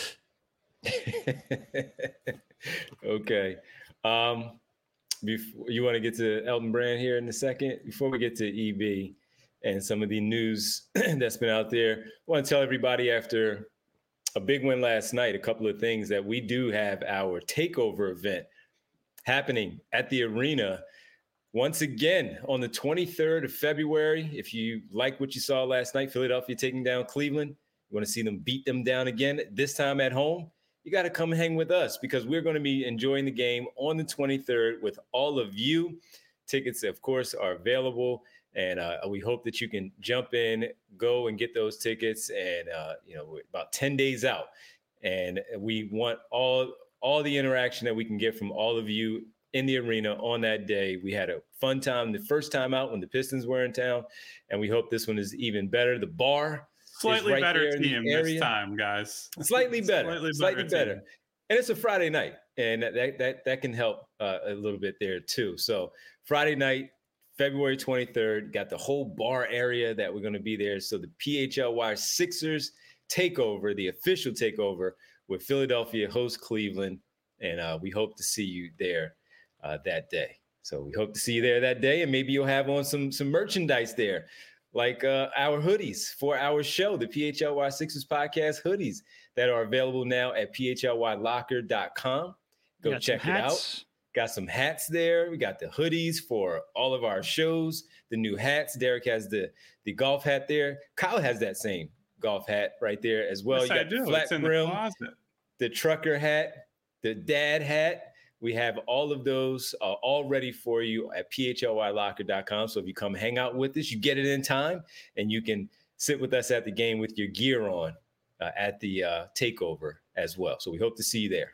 Okay. Um, before, you want to get to Elton Brand here in a second? Before we get to E B and some of the news that's been out there, I want to tell everybody after a big win last night, a couple of things that we do have our takeover event happening at the arena once again on the twenty-third of February. If you like what you saw last night, Philadelphia taking down Cleveland, you want to see them beat them down again, this time at home, you got to come hang with us because we're going to be enjoying the game on the twenty-third with all of you. Tickets, of course, are available, and uh, we hope that you can jump in, go and get those tickets. And, uh, you know, we're about ten days out, and we want all all the interaction that we can get from all of you in the arena on that day. We had a fun time the first time out when the Pistons were in town, and we hope this one is even better. The bar slightly right better team this time, guys. Slightly better, slightly, slightly better. better. And it's a Friday night, and that that that can help uh, a little bit there too. So Friday night, February twenty-third, got the whole bar area that we're going to be there. So the P H L Y Sixers takeover, the official takeover with Philadelphia host Cleveland, and uh, we hope to see you there uh, that day. So we hope to see you there that day, and maybe you'll have on some some merchandise there, like uh, our hoodies for our show, the P H L Y Sixers podcast hoodies that are available now at P H L Y locker dot com. Go check it out. Got some hats there. We got the hoodies for all of our shows, the new hats. Derek has the, the golf hat there. Kyle has that same golf hat right there as well. Yes, you got I do. the flat it's in brim, the closet. The trucker hat, the dad hat. We have all of those uh, all ready for you at P H L Y locker dot com. So if you come hang out with us, you get it in time, and you can sit with us at the game with your gear on uh, at the uh, takeover as well. So we hope to see you there.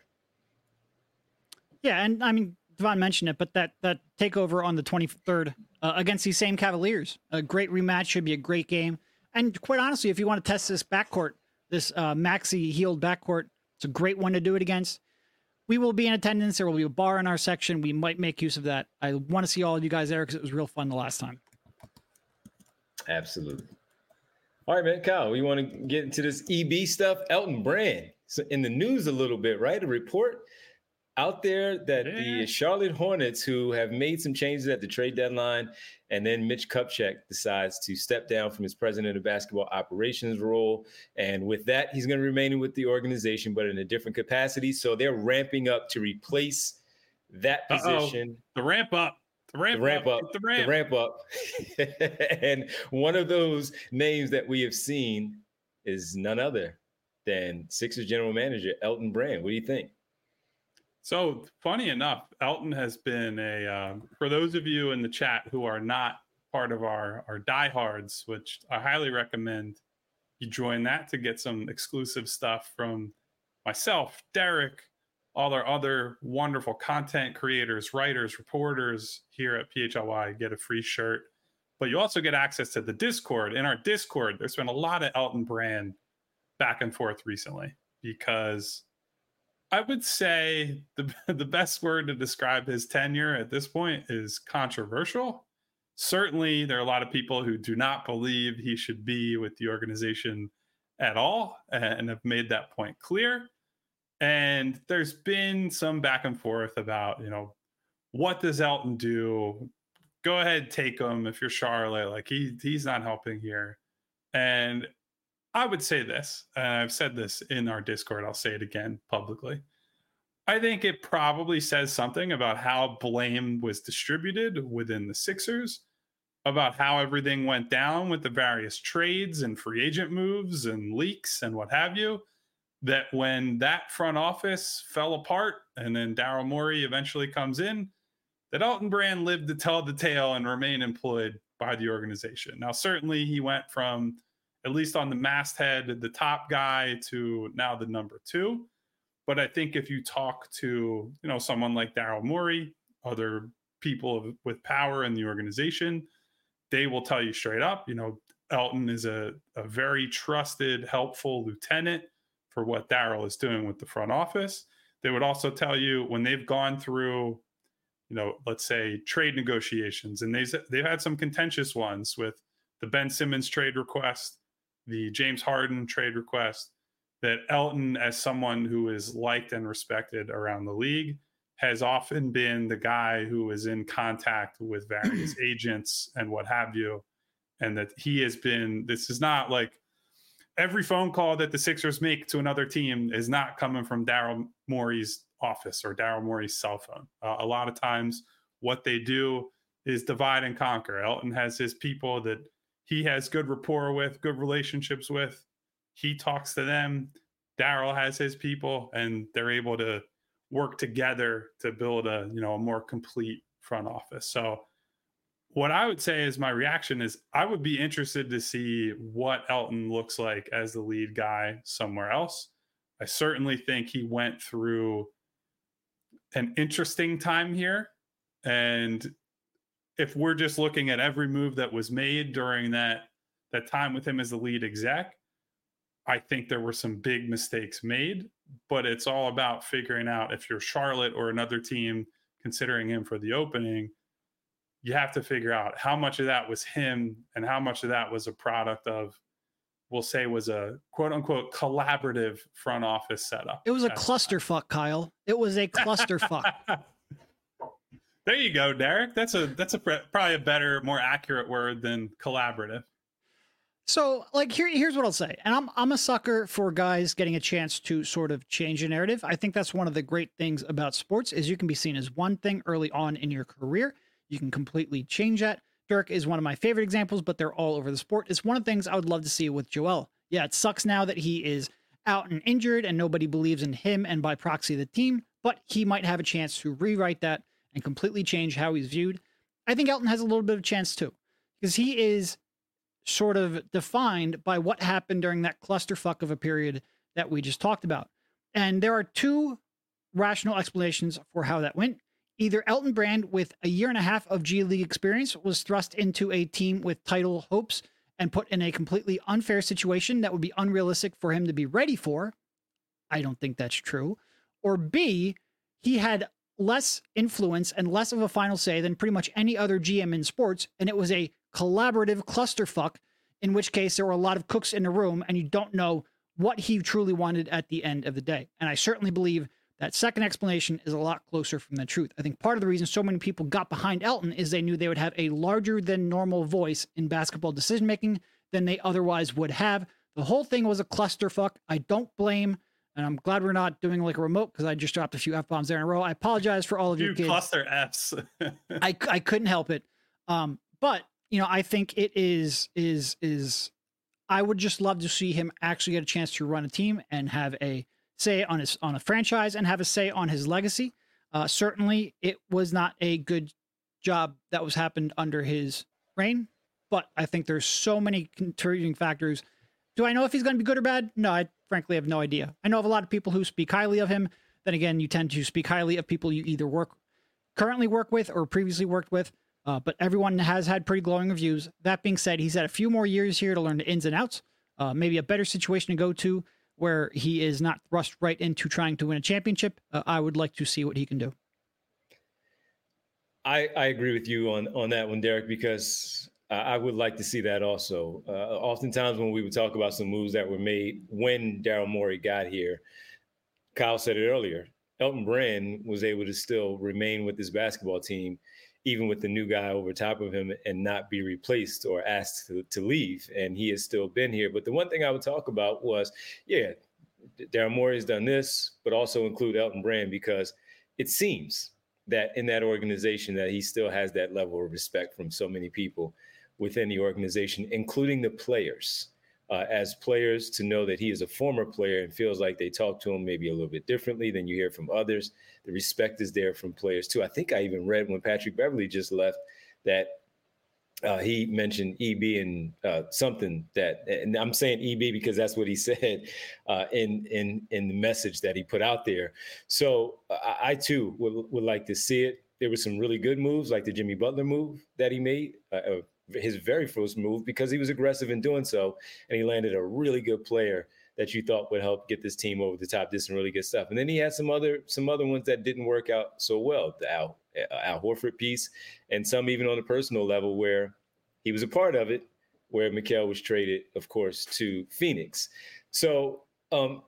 Yeah, and I mean, Devon mentioned it, but that that takeover on the twenty-third uh, against these same Cavaliers, a great rematch, should be a great game. And quite honestly, if you want to test this backcourt, this uh, Maxey healed backcourt, it's a great one to do it against. We will be in attendance. There will be a bar in our section. We might make use of that. I want to see all of you guys there because it was real fun the last time. Absolutely. All right, man. Kyle, we want to get into this E B stuff. Elton Brand, so in the news a little bit, right? A report out there that yeah. the Charlotte Hornets, who have made some changes at the trade deadline, and then Mitch Kupchak decides to step down from his president of basketball operations role. And with that, he's going to remain with the organization, but in a different capacity. So they're ramping up to replace that position. Uh-oh. The ramp up. The ramp, the ramp up. up. The ramp, the ramp up. And one of those names that we have seen is none other than Sixers general manager Elton Brand. What do you think? So funny enough, Elton has been a, uh, for those of you in the chat who are not part of our, our diehards, which I highly recommend you join that to get some exclusive stuff from myself, Derek, all our other wonderful content creators, writers, reporters here at P H L Y get a free shirt. But you also get access to the Discord. In our Discord, there's been a lot of Elton Brand back and forth recently because I would say the the best word to describe his tenure at this point is controversial. Certainly, there are a lot of people who do not believe he should be with the organization at all and have made that point clear. And there's been some back and forth about, you know, what does Elton do? Go ahead, take him if you're Charlotte. Like he he's not helping here. And I would say this, and I've said this in our Discord, I'll say it again publicly. I think it probably says something about how blame was distributed within the Sixers, about how everything went down with the various trades and free agent moves and leaks and what have you, that when that front office fell apart and then Daryl Morey eventually comes in, that Elton Brand lived to tell the tale and remain employed by the organization. Now, certainly he went from, at least on the masthead, the top guy to now the number two. But I think if you talk to, you know, someone like Daryl Morey, other people with power in the organization, they will tell you straight up, you know, Elton is a, a very trusted, helpful lieutenant for what Daryl is doing with the front office. They would also tell you when they've gone through, you know, let's say trade negotiations, and they've, they've had some contentious ones with the Ben Simmons trade request, the James Harden trade request, that Elton, as someone who is liked and respected around the league, has often been the guy who is in contact with various agents and what have you. And that he has been, this is not like every phone call that the Sixers make to another team is not coming from Daryl Morey's office or Daryl Morey's cell phone. Uh, a lot of times what they do is divide and conquer. Elton has his people that he has good rapport with, good relationships with. He talks to them. Daryl has his people, and they're able to work together to build a, you know, a more complete front office. So what I would say is my reaction is I would be interested to see what Elton looks like as the lead guy somewhere else. I certainly think he went through an interesting time here. And if we're just looking at every move that was made during that, that time with him as the lead exec, I think there were some big mistakes made, but it's all about figuring out if you're Charlotte or another team considering him for the opening, you have to figure out how much of that was him and how much of that was a product of, we'll say, was a quote unquote collaborative front office setup. It was a clusterfuck, Kyle. It was a clusterfuck. There you go, Derek. That's a that's a probably a better, more accurate word than collaborative. So, like, here, here's what I'll say. And I'm I'm a sucker for guys getting a chance to sort of change a narrative. I think that's one of the great things about sports is you can be seen as one thing early on in your career. You can completely change that. Dirk is one of my favorite examples, but they're all over the sport. It's one of the things I would love to see with Joel. Yeah, it sucks now that he is out and injured and nobody believes in him and by proxy the team, but he might have a chance to rewrite that and completely change how he's viewed. I think Elton has a little bit of a chance too, because he is sort of defined by what happened during that clusterfuck of a period that we just talked about. And there are two rational explanations for how that went. Either Elton Brand, with a year and a half of G League experience, was thrust into a team with title hopes and put in a completely unfair situation that would be unrealistic for him to be ready for. I don't think that's true. Or B, he had less influence and less of a final say than pretty much any other G M in sports, and it was a collaborative clusterfuck, in which case there were a lot of cooks in the room and you don't know what he truly wanted at the end of the day. And I certainly believe that second explanation is a lot closer from the truth. I think part of the reason so many people got behind Elton is they knew they would have a larger than normal voice in basketball decision-making than they otherwise would have. The whole thing was a clusterfuck. I don't blame, and I'm glad we're not doing like a remote because I just dropped a few F-bombs there in a row. I apologize for all of you kids. Cluster Fs. I, I couldn't help it. Um, but you know, I think it is, is, is, I would just love to see him actually get a chance to run a team and have a say on his, on a franchise and have a say on his legacy. Uh, certainly it was not a good job that was happened under his reign, but I think there's so many contributing factors. Do I know if he's going to be good or bad? No, I frankly have no idea. I know of a lot of people who speak highly of him. Then again, you tend to speak highly of people you either work currently work with or previously worked with. Uh, but everyone has had pretty glowing reviews. That being said, he's had a few more years here to learn the ins and outs, uh, maybe a better situation to go to where he is not thrust right into trying to win a championship. Uh, I would like to see what he can do. I, I agree with you on, on that one, Derek, because I would like to see that also. Uh, oftentimes when we would talk about some moves that were made when Daryl Morey got here, Kyle said it earlier, Elton Brand was able to still remain with his basketball team, even with the new guy over top of him, and not be replaced or asked to, to leave. And he has still been here. But the one thing I would talk about was, yeah, Daryl Morey has done this, but also include Elton Brand, because it seems that in that organization that he still has that level of respect from so many people within the organization, including the players. Uh, as players, to know that he is a former player and feels like they talk to him maybe a little bit differently than you hear from others. The respect is there from players too. I think I even read when Patrick Beverley just left that uh, he mentioned E B and uh, something that, and I'm saying E B because that's what he said uh, in in in the message that he put out there. So I, I too would, would like to see it. There were some really good moves, like the Jimmy Butler move that he made. Uh, his very first move, because he was aggressive in doing so, and he landed a really good player that you thought would help get this team over the top, did some really good stuff. And then he had some other some other ones that didn't work out so well, the Al, Al Horford piece, and some even on a personal level where he was a part of it, where Mikal was traded, of course, to Phoenix. So um,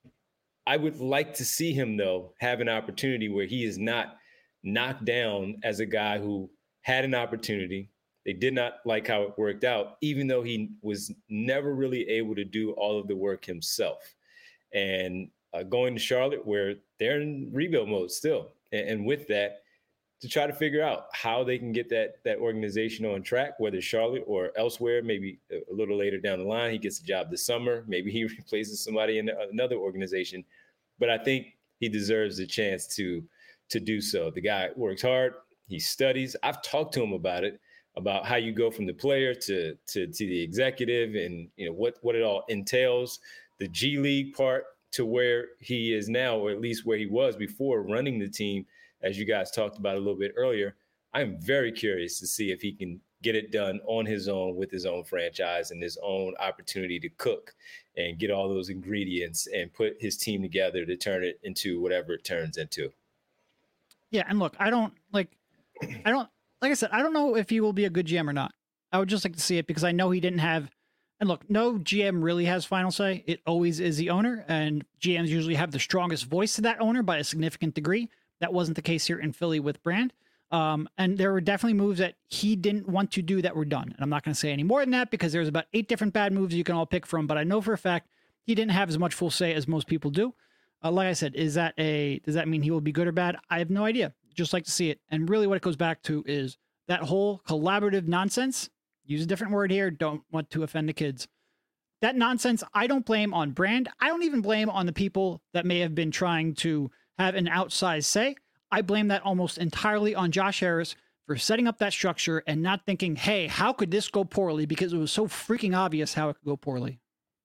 I would like to see him, though, have an opportunity where he is not knocked down as a guy who had an opportunity. They did not like how it worked out, even though he was never really able to do all of the work himself. And uh, going to Charlotte, where they're in rebuild mode still. And, and with that, to try to figure out how they can get that that organization on track, whether Charlotte or elsewhere, maybe a little later down the line. He gets a job this summer. Maybe he replaces somebody in another organization. But I think he deserves a chance to, to do so. The guy works hard. He studies. I've talked to him about it, about how you go from the player to, to, to the executive, and you know what, what it all entails, the G League part to where he is now, or at least where he was before running the team, as you guys talked about a little bit earlier. I'm very curious to see if he can get it done on his own with his own franchise and his own opportunity to cook and get all those ingredients and put his team together to turn it into whatever it turns into. Yeah, and look, I don't like, I don't, like I said, I don't know if he will be a good G M or not. I would just like to see it because I know he didn't have, and look, no G M really has final say. It always is the owner, and G Ms usually have the strongest voice to that owner by a significant degree. That wasn't the case here in Philly with Brand. Um, and there were definitely moves that he didn't want to do that were done. And I'm not going to say any more than that because there's about eight different bad moves you can all pick from. But I know for a fact he didn't have as much full say as most people do. Uh, like I said, is that a, does that mean he will be good or bad? I have no idea. Just like to see it. And really what it goes back to is that whole collaborative nonsense. Use a different word here. Don't want to offend the kids. That nonsense, I don't blame on Brand. I don't even blame on the people that may have been trying to have an outsized say. I blame that almost entirely on Josh Harris for setting up that structure and not thinking, hey, how could this go poorly? Because it was so freaking obvious how it could go poorly.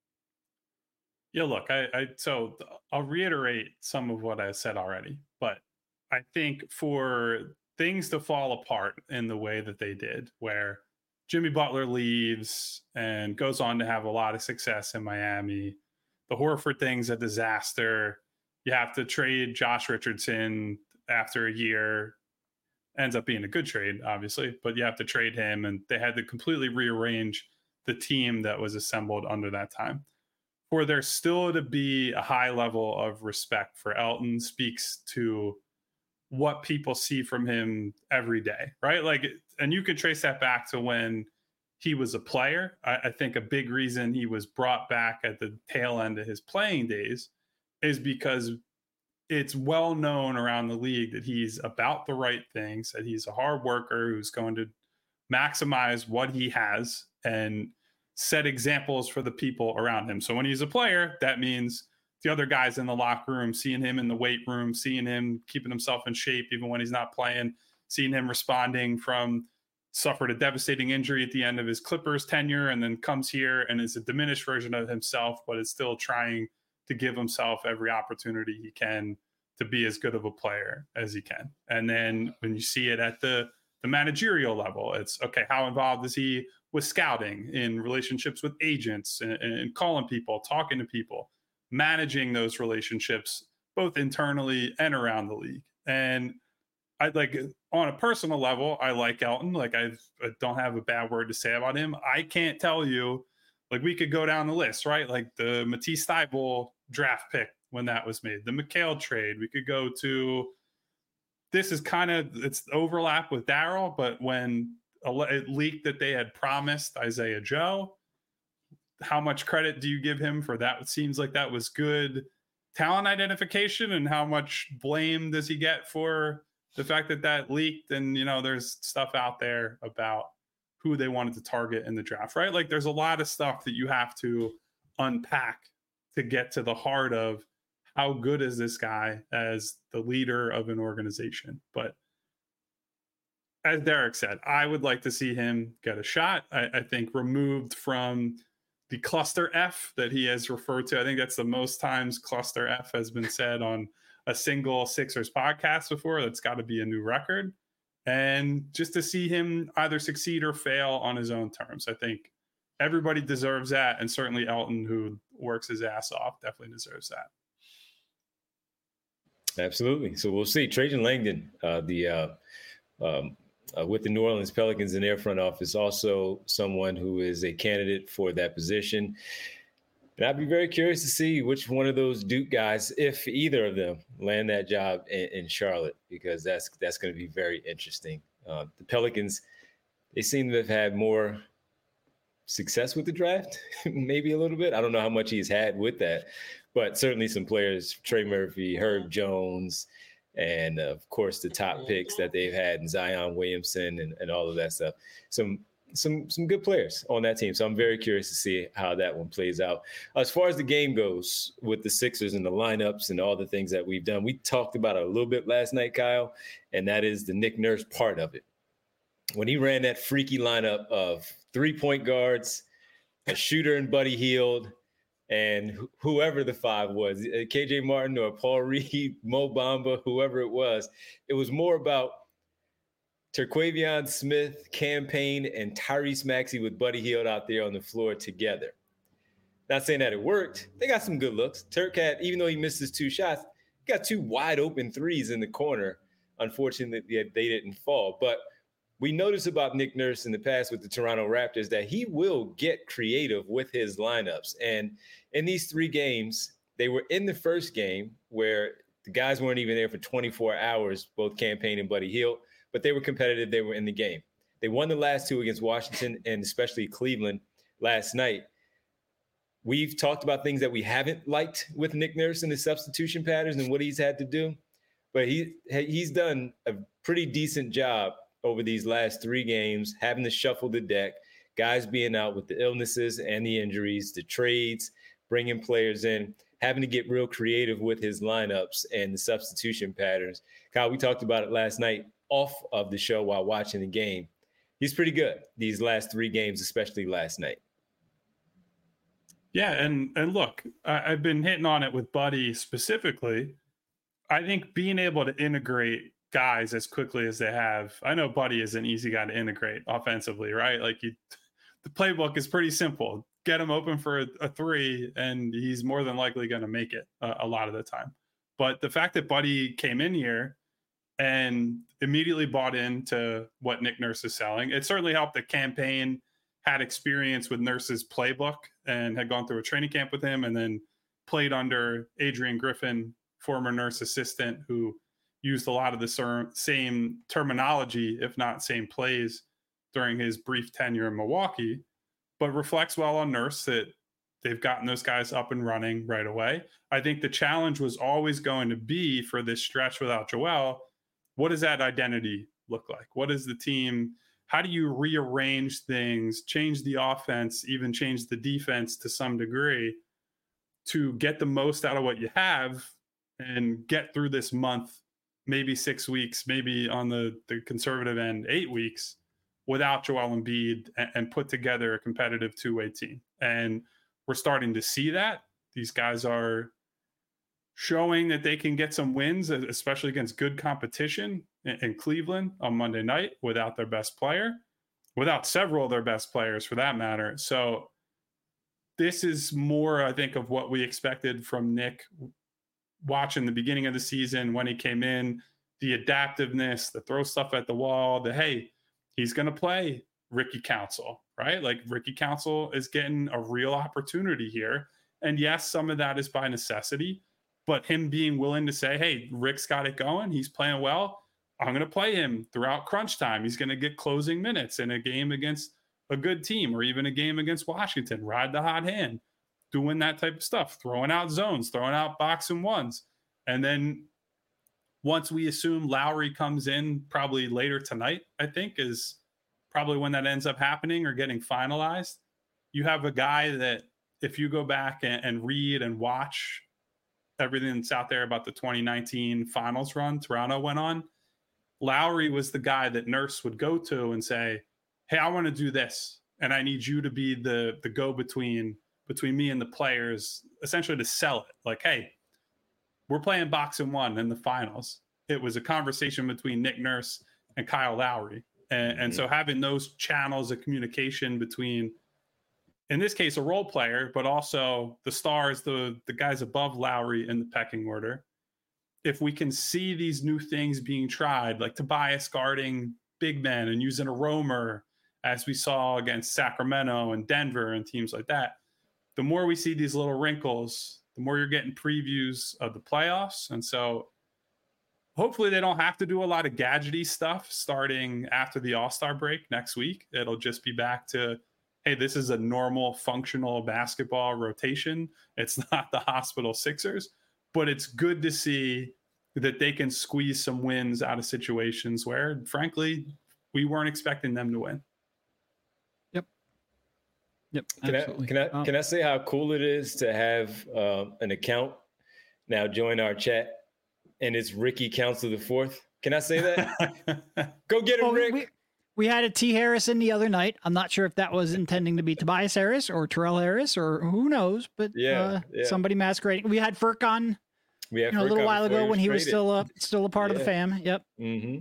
Yeah, look, I, I so I'll reiterate some of what I said already, but I think for things to fall apart in the way that they did, where Jimmy Butler leaves and goes on to have a lot of success in Miami, the Horford thing's a disaster. You have to trade Josh Richardson after a year. Ends up being a good trade, obviously, but you have to trade him, and they had to completely rearrange the team that was assembled under that time. For there still to be a high level of respect for Elton speaks to what people see from him every day, right? Like, and you can trace that back to when he was a player. I, I think a big reason he was brought back at the tail end of his playing days is because it's well known around the league that he's about the right things, that he's a hard worker who's going to maximize what he has and set examples for the people around him. So when he's a player, that means the other guys in the locker room, seeing him in the weight room, seeing him keeping himself in shape even when he's not playing, seeing him responding from suffered a devastating injury at the end of his Clippers tenure and then comes here and is a diminished version of himself, but is still trying to give himself every opportunity he can to be as good of a player as he can. And then when you see it at the, the managerial level, it's okay, how involved is he with scouting, in relationships with agents, and, and calling people, talking to people, managing those relationships both internally and around the league. And I like on a personal level, I like Elton. Like I, I don't have a bad word to say about him. I can't tell you, like we could go down the list, right? Like the Matisse Thybulle draft pick when that was made, the McHale trade. We could go to, this is kind of, it's overlap with Daryl, but when it leaked that they had promised Isaiah Joe, how much credit do you give him for that? It seems like that was good talent identification, and how much blame does he get for the fact that that leaked? And, you know, there's stuff out there about who they wanted to target in the draft, right? Like there's a lot of stuff that you have to unpack to get to the heart of how good is this guy as the leader of an organization. But as Derek said, I would like to see him get a shot. I, I think removed from the cluster F that he has referred to. I think that's the most times cluster F has been said on a single Sixers podcast before. That's got to be a new record. And just to see him either succeed or fail on his own terms. I think everybody deserves that. And certainly Elton, who works his ass off, definitely deserves that. Absolutely. So we'll see. Trajan Langdon, uh, the uh, um, uh, with the New Orleans Pelicans in their front office, also someone who is a candidate for that position. And I'd be very curious to see which one of those Duke guys, if either of them, land that job in, in Charlotte, because that's that's going to be very interesting. Uh, the Pelicans, they seem to have had more success with the draft, maybe a little bit. I don't know how much he's had with that, but certainly some players, Trey Murphy, Herb Jones, and uh, of course the top picks that they've had in Zion Williamson and, and all of that stuff. Some some some good players on that team. So I'm very curious to see how that one plays out. As far as the game goes with the Sixers and the lineups and all the things that we've done, we talked about it a little bit last night, Kyle, and that is the Nick Nurse part of it. When he ran that freaky lineup of three-point guards, a shooter and Buddy Hield, and wh- whoever the five was, K J Martin or Paul Reed, Mo Bamba, whoever it was, it was more about Terquavion Smith, Cam Payne, and Tyrese Maxey with Buddy Hield out there on the floor together. Not saying that it worked. They got some good looks. Turk had, even though he missed his two shots, he got two wide open threes in the corner. Unfortunately, they didn't fall. But we noticed about Nick Nurse in the past with the Toronto Raptors that he will get creative with his lineups. And in these three games, they were in the first game where the guys weren't even there for twenty-four hours, both Cam Payne and Buddy Hield, but they were competitive. They were in the game. They won the last two against Washington and especially Cleveland last night. We've talked about things that we haven't liked with Nick Nurse and his substitution patterns and what he's had to do, but he he's done a pretty decent job over these last three games, having to shuffle the deck, guys being out with the illnesses and the injuries, the trades, bringing players in, having to get real creative with his lineups and the substitution patterns. Kyle, we talked about it last night off of the show while watching the game. He's pretty good these last three games, especially last night. Yeah, and and look, I, I've been hitting on it with Buddy specifically. I think being able to integrate guys as quickly as they have. I know Buddy is an easy guy to integrate offensively, right? Like you, the playbook is pretty simple. Get him open for a, a three, and he's more than likely going to make it uh, a lot of the time. But the fact that Buddy came in here and immediately bought into what Nick Nurse is selling, it certainly helped that Cam Payne had experience with Nurse's playbook and had gone through a training camp with him and then played under Adrian Griffin, former Nurse assistant, who used a lot of the ser- same terminology, if not same plays, during his brief tenure in Milwaukee, but reflects well on Nurse that they've gotten those guys up and running right away. I think the challenge was always going to be for this stretch without Joel, what does that identity look like? What is the team? How do you rearrange things, change the offense, even change the defense to some degree to get the most out of what you have and get through this month, maybe six weeks, maybe on the, the conservative end, eight weeks without Joel Embiid and, and put together a competitive two-way team. And we're starting to see that. These guys are showing that they can get some wins, especially against good competition in, in Cleveland on Monday night without their best player, without several of their best players for that matter. So this is more, I think, of what we expected from Nick watching the beginning of the season when he came in. the adaptiveness, the throw stuff at the wall, the, hey, he's going to play Ricky Council, right? Like Ricky Council is getting a real opportunity here. And yes, some of that is by necessity, but him being willing to say, hey, Rick's got it going. He's playing well. I'm going to play him throughout crunch time. He's going to get closing minutes in a game against a good team or even a game against Washington. Ride the hot hand, doing that type of stuff, throwing out zones, throwing out box and ones. And then once we assume Lowry comes in probably later tonight, I think is probably when that ends up happening or getting finalized. You have a guy that if you go back and, and read and watch everything that's out there about the twenty nineteen finals run Toronto went on, Lowry was the guy that Nurse would go to and say, hey, I want to do this. And I need you to be the, the go-between between me and the players, essentially to sell it. Like, hey, we're playing box and one in the finals. It was a conversation between Nick Nurse and Kyle Lowry. And, mm-hmm. and so having those channels of communication between, in this case, a role player, but also the stars, the, the guys above Lowry in the pecking order. If we can see these new things being tried, like Tobias guarding big men and using a roamer, as we saw against Sacramento and Denver and teams like that, the more we see these little wrinkles, the more you're getting previews of the playoffs. And so hopefully they don't have to do a lot of gadgety stuff starting after the All-Star break next week. It'll just be back to, hey, this is a normal functional basketball rotation. It's not the hospital Sixers, but it's good to see that they can squeeze some wins out of situations where, frankly, we weren't expecting them to win. Yep. Yep. Can absolutely. I can I um, can I say how cool it is to have uh, an account now join our chat, and it's Ricky Council the Fourth? Can I say that? Go get him, well, Rick. We, we had a T Harrison the other night. I'm not sure if that was intending to be Tobias Harris or Terrell Harris or who knows, but yeah, uh, yeah. somebody masquerading. We had Furkan. We had you know, a little while ago when he was traded. still a still a part yeah. of the fam. Yep. Mm-hmm.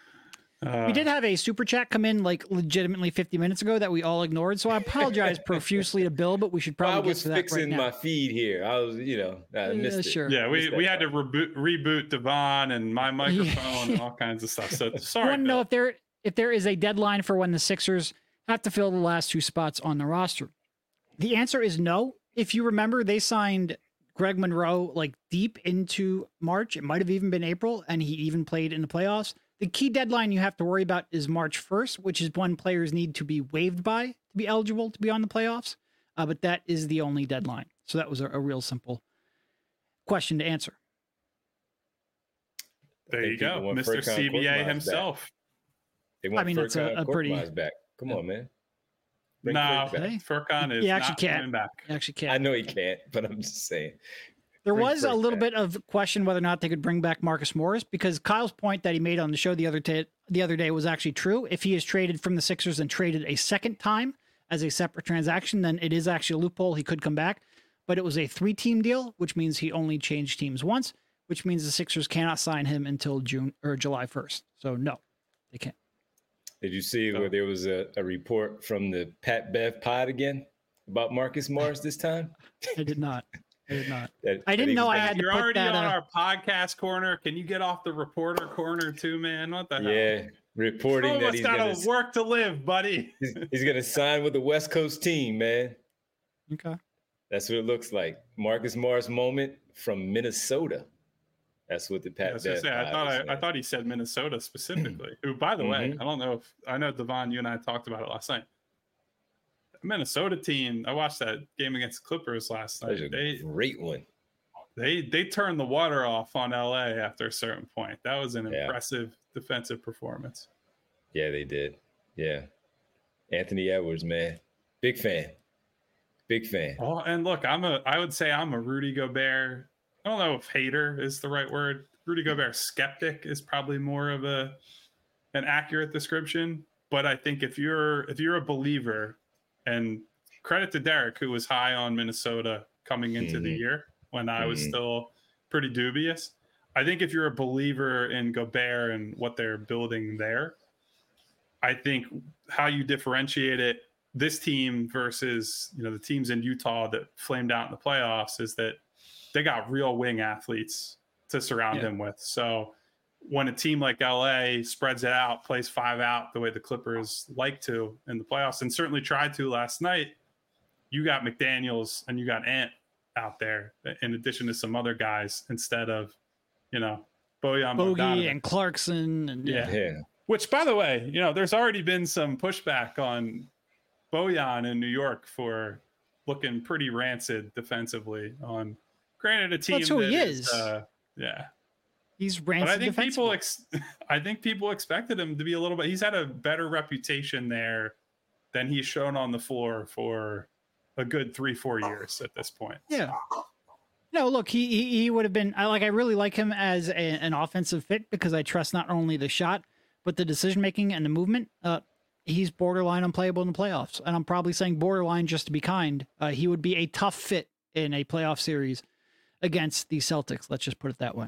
Uh, we did have a super chat come in like legitimately fifty minutes ago that we all ignored. So I apologize profusely to Bill, but we should probably well, I was get to that fixing right my now. feed here. I was, you know, I missed yeah, it. sure. Yeah, we, Missed we that had to part. reboot, reboot Devon and my microphone and all kinds of stuff. So sorry. I want to know Bill. if there if there is a deadline for when the Sixers have to fill the last two spots on the roster. The answer is no. If you remember, they signed Greg Monroe like deep into March. It might have even been April, and he even played in the playoffs. The key deadline you have to worry about is March first, which is when players need to be waived by to be eligible to be on the playoffs. Uh, but that is the only deadline. So that was a, a real simple question to answer. There you go, Mister Furkan C B A Korkmaz himself. Back. They want I mean, that's a- Furkan a pretty- Korkmaz back. Come on, man. Bring No, Furk back. Hey, Furkan is he actually not can't. coming back. You actually I can't. know he can't, but I'm just saying. There Bring was a Furk little back. bit of question whether or not they could bring back Marcus Morris, because Kyle's point that he made on the show the other day, the other day was actually true. If he is traded from the Sixers and traded a second time as a separate transaction, then it is actually a loophole. He could come back, but it was a three-team deal, which means he only changed teams once, which means the Sixers cannot sign him until June or July first. So no, they can't. Did you see So- where there was a, a report from the Pat Bev pod again about Marcus Morris this time? I did not. I did not. That- I that didn't he know was I gonna- had to You're put already that, on uh, our podcast corner. Can you get off the reporter corner too, man? What the hell? Yeah, reporting Some of that us he's gotta gonna, work to live, buddy. he's, he's gonna sign with the West Coast team, man. Okay. That's what it looks like. Marcus Morris moment from Minnesota. That's what the I, Pat was gonna Bev say, I pod thought is I, I saying. thought he said Minnesota specifically. Who, by the way, Mhm. I don't know if I know Devon. You and I talked about it last night. The Minnesota team. I watched that game against the Clippers last That was night. a They great one. they they turned the water off on L A after a certain point. That was an Yeah. impressive defensive performance. Yeah, they did. Yeah. Anthony Edwards, man. Big fan. Big fan. Oh, and look, I'm a I would say I'm a Rudy Gobert. I don't know if hater is the right word. Rudy Gobert skeptic is probably more of a an accurate description. But I think if you're if you're a believer, and credit to Derek, who was high on Minnesota coming into the Mhm. year when I was Mhm. still pretty dubious. I think if you're a believer in Gobert and what they're building there, I think how you differentiate it, this team versus, you know, the teams in Utah that flamed out in the playoffs, is that they got real wing athletes to surround Yeah. him with. So when a team like L A spreads it out, plays five out the way the Clippers like to in the playoffs, and certainly tried to last night, you got McDaniels and you got Ant out there in addition to some other guys instead of, you know, Bojan Bogey Bogdanovic. and Clarkson. And yeah. yeah. Yeah. Which, by the way, you know, there's already been some pushback on Bojan in New York for looking pretty rancid defensively on, granted, a team That's who that he is. is. Uh, yeah. He's rancid But I think people, defensively. ex- I think people expected him to be a little bit. He's had a better reputation there than he's shown on the floor for a good three, four years at this point. Yeah. No, look, he he, he would have been. I like. I really like him as a, an offensive fit because I trust not only the shot but the decision making and the movement. Uh, he's borderline unplayable in the playoffs, and I'm probably saying borderline just to be kind. Uh, he would be a tough fit in a playoff series against the Celtics. Let's just put it that way.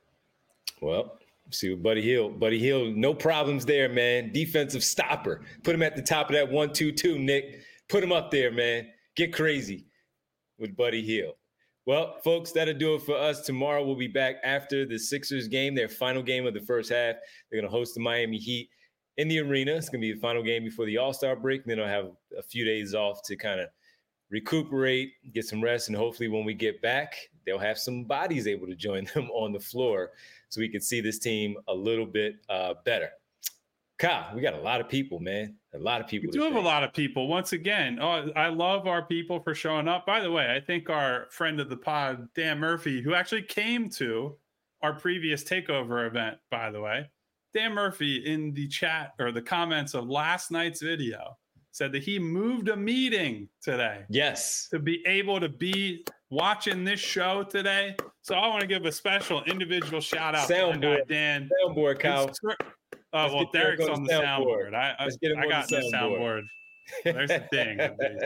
Well, see what Buddy Hield. Buddy Hield, no problems there, man. Defensive stopper. Put him at the top of that one, two, two, Nick. Put him up there, man. Get crazy with Buddy Hield. Well, folks, that'll do it for us. Tomorrow we'll be back after the Sixers game, their final game of the first half. They're going to host the Miami Heat in the arena. It's going to be the final game before the All-Star break. And then they'll have a few days off to kind of recuperate, get some rest, and hopefully when we get back, they'll have some bodies able to join them on the floor so we can see this team a little bit uh, better. Kyle, we got a lot of people, man. A lot of people. We do have a lot of people. Once again, oh, I love our people for showing up. By the way, I think our friend of the pod, Dan Murphy, who actually came to our previous takeover event, by the way, Dan Murphy in the chat or the comments of last night's video said that he moved a meeting today. Yes. To be able to be watching this show today. So I want to give a special individual shout out Soundboard. to my guy, Dan. Soundboard, Kyle. Oh, Let's well, get Derek Derek's on on the the soundboard. soundboard. I, I, Let's get him I on got the the soundboard. There's the thing.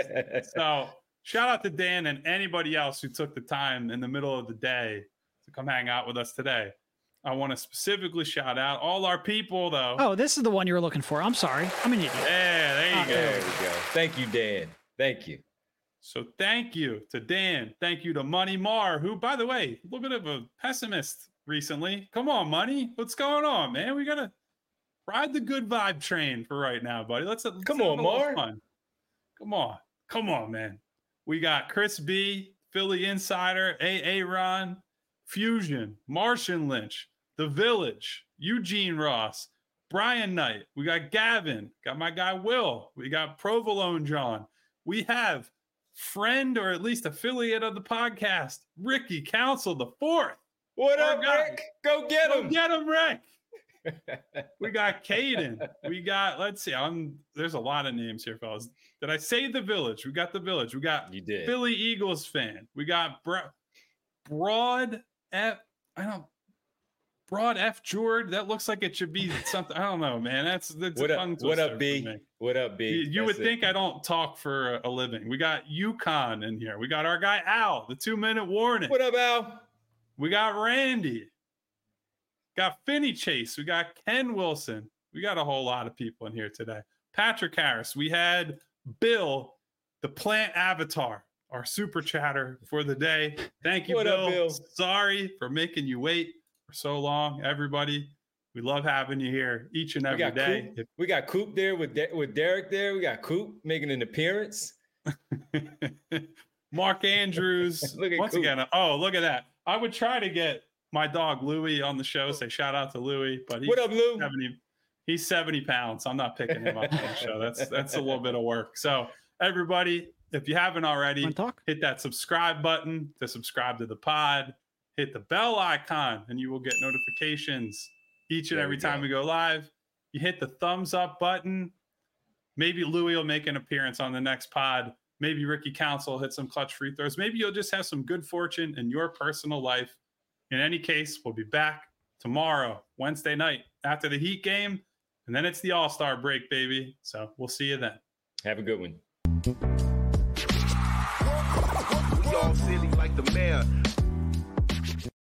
So shout out to Dan and anybody else who took the time in the middle of the day to come hang out with us today. I want to specifically shout out all our people, though. Oh, this is the one you were looking for. I'm sorry. I'm an idiot. Yeah, there you Oh, go. There we go. Thank you, Dan. Thank you. So thank you to Dan. Thank you to Money Mar, who, by the way, a little bit of a pessimist recently. Come on, Money. What's going on, man? We got to ride the good vibe train for right now, buddy. Let's, let's Come have on, a little Mar. fun. Come on. Come on, man. We got Chris B, Philly Insider, A A Ron, Fusion, Martian Lynch, The Village, Eugene Ross, Brian Knight. We got Gavin. Got my guy Will. We got Provolone John. We have friend or at least affiliate of the podcast, Ricky Council the Fourth. What Our up, guy. Rick? Go get Go him. get him, Rick. We got Caden. We got, let's see, I'm there's a lot of names here, fellas. Did I say the Village? We got the Village. We got You did. Philly Eagles fan. We got Bro- Broad F. I don't Broad F. Jord. That looks like it should be something. I don't know, man. That's that's What a up? tongue What twister up, for B? me. What up, B? You, you would That's it. think I don't talk for a, a living. We got Yukon in here. We got our guy Al, the two minute warning. What up, Al? We got Randy. Got Finney Chase. We got Ken Wilson. We got a whole lot of people in here today. Patrick Harris. We had Bill, the plant avatar, our super chatter for the day. Thank you, What Bill. up, Bill? Sorry for making you wait for so long, everybody. We love having you here each and We every got day. Coop. We got Coop there with De- with Derek there. We got Coop making an appearance. Mark Andrews. Look at Once Coop. again, oh, look at that. I would try to get my dog Louie on the show. Say shout out to Louie, but he's What up, Lou? seventy. He's seventy pounds. I'm not picking him up on the show. That's that's a little bit of work. So everybody, if you haven't already, Want to talk? hit that subscribe button to subscribe to the pod. Hit the bell icon, and you will get notifications each and There every we time go. we go live. You hit the thumbs up button. Maybe Louie will make an appearance on the next pod. Maybe Ricky Council will hit some clutch free throws. Maybe you'll just have some good fortune in your personal life. In any case, we'll be back tomorrow, Wednesday night, after the Heat game. And then it's the All-Star break, baby. So we'll see you then. Have a good one. We all silly like the mayor.